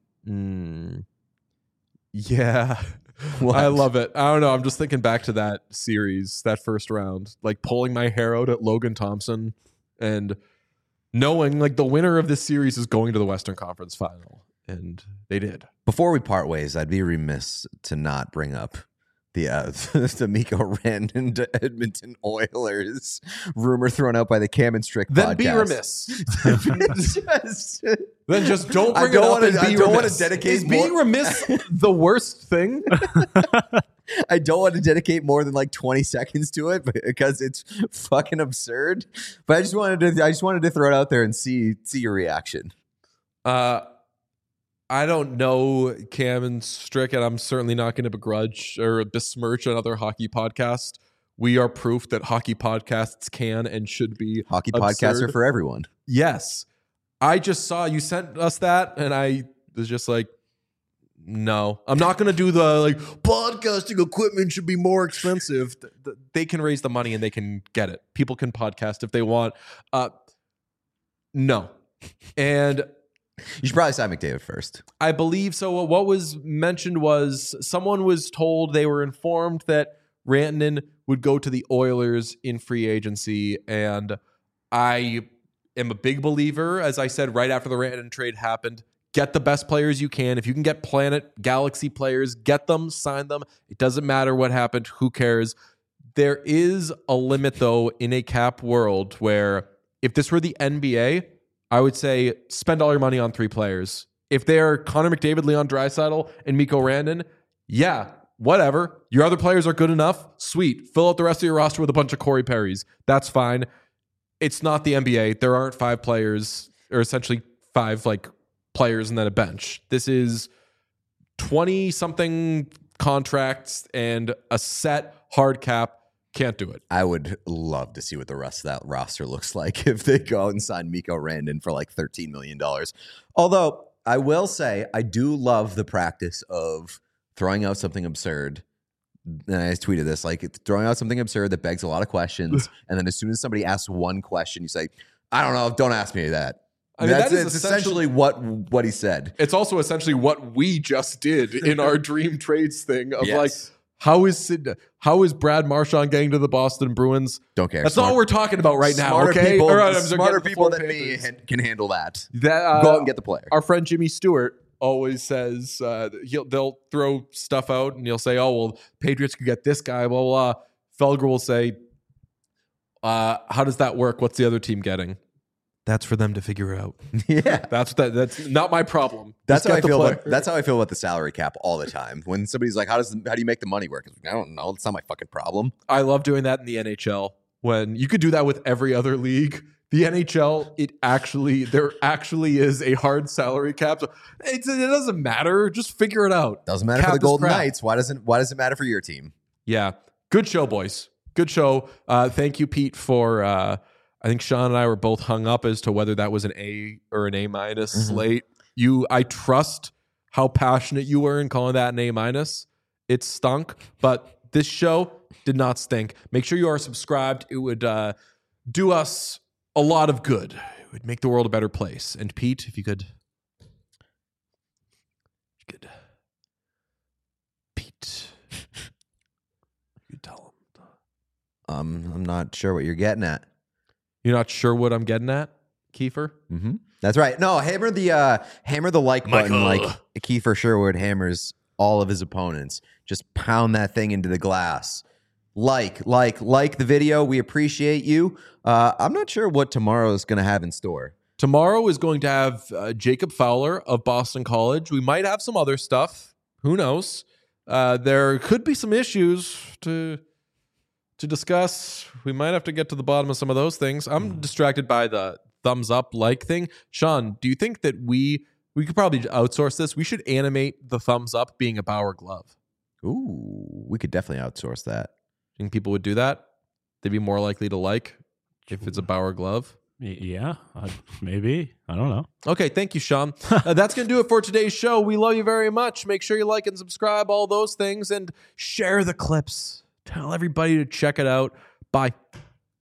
Yeah. What? I love it. I don't know. I'm just thinking back to that series, that first round, like pulling my hair out at Logan Thompson and knowing like the winner of this series is going to the Western Conference Final. And they did. Before we part ways, I'd be remiss to not bring up the Mikko Rantanen to Edmonton Oilers rumor thrown out by the Cam and Strick Then podcast. be remiss. Just- Then just don't I bring don't it up wanna- and I be don't wanna remiss. dedicate Is being more- remiss the worst thing? I don't want to dedicate more than like 20 seconds to it because it's fucking absurd. But I just wanted to throw it out there and see your reaction. I don't know Cam and Strick, and I'm certainly not going to begrudge or besmirch another hockey podcast. We are proof that hockey podcasts can and should be Hockey absurd. podcasts are for everyone. Yes. I just saw you sent us that, and I was just like, no, I'm not going to do the like podcasting equipment should be more expensive. They can raise the money and they can get it. People can podcast if they want. No. And You should probably sign McDavid first. I believe so. What was mentioned was someone was told they were informed that Rantanen would go to the Oilers in free agency. And I am a big believer, as I said right after the Rantanen trade happened, get the best players you can. If you can get Planet Galaxy players, get them, sign them. It doesn't matter what happened. Who cares? There is a limit, though, in a cap world where if this were the NBA, I would say spend all your money on 3 players. If they're Connor McDavid, Leon Draisaitl, and Mikko Rantanen, yeah, whatever. Your other players are good enough. Sweet. Fill out the rest of your roster with a bunch of Corey Perrys. That's fine. It's not the NBA. There aren't 5 players, or essentially 5 like players and then a bench. This is 20-something contracts and a set hard cap. Can't do it. I would love to see what the rest of that roster looks like if they go out and sign Mikko Rantanen for like $13 million. Although I will say I do love the practice of throwing out something absurd. And I tweeted this, like it's throwing out something absurd that begs a lot of questions. And then as soon as somebody asks one question, you say, I don't know. Don't ask me that. I mean, that is it's essentially what he said. It's also essentially what we just did in our dream trades thing of Yes. like, how is Brad Marchand getting to the Boston Bruins? Don't care. That's not what we're talking about right now. Smarter Okay, people, Or, I'm sorry, smarter get the people Florida than me Panthers. can handle that. That Go out and get the player. Our friend Jimmy Stewart always says they'll throw stuff out and he'll say, "Oh well, Patriots could get this guy." Blah blah. Blah. Felger will say, "How does that work? What's the other team getting?" That's for them to figure out. Yeah. That's not my problem. That's Just how I get the feel. player. That's how I feel about the salary cap all the time. When somebody's like, "How do you make the money work?" It's like, I don't know. It's not my fucking problem. I love doing that in the NHL. When you could do that with every other league. The NHL, there actually is a hard salary cap. So it doesn't matter. Just figure it out. Doesn't matter Cap for the is Golden crap. Knights. Why does it matter for your team? Yeah. Good show, boys. Good show. Thank you, Pete, for I think Sean and I were both hung up as to whether that was an A or an A minus slate. I trust how passionate you were in calling that an A minus. It stunk, but this show did not stink. Make sure you are subscribed. It would do us a lot of good. It would make the world a better place. And Pete, if you could. Pete. You tell him. I'm not sure what you're getting at. You're not sure what I'm getting at, Kiefer? Mm-hmm. That's right. No, hammer the like button like Kiefer Sherwood hammers all of his opponents. Just pound that thing into the glass. Like the video. We appreciate you. I'm not sure what tomorrow is going to have in store. Tomorrow is going to have Jacob Fowler of Boston College. We might have some other stuff. Who knows? There could be some issues to discuss. We might have to get to the bottom of some of those things. I'm distracted by the thumbs up like thing. Sean, do you think that we could probably outsource this? We should animate the thumbs up being a Bauer glove. Ooh, we could definitely outsource that. Think people would do that? They'd be more likely to like if it's a Bauer glove. Yeah, maybe. I don't know. Okay, thank you, Sean. That's going to do it for today's show. We love you very much. Make sure you like and subscribe, all those things, and share the clips. Tell everybody to check it out. Bye.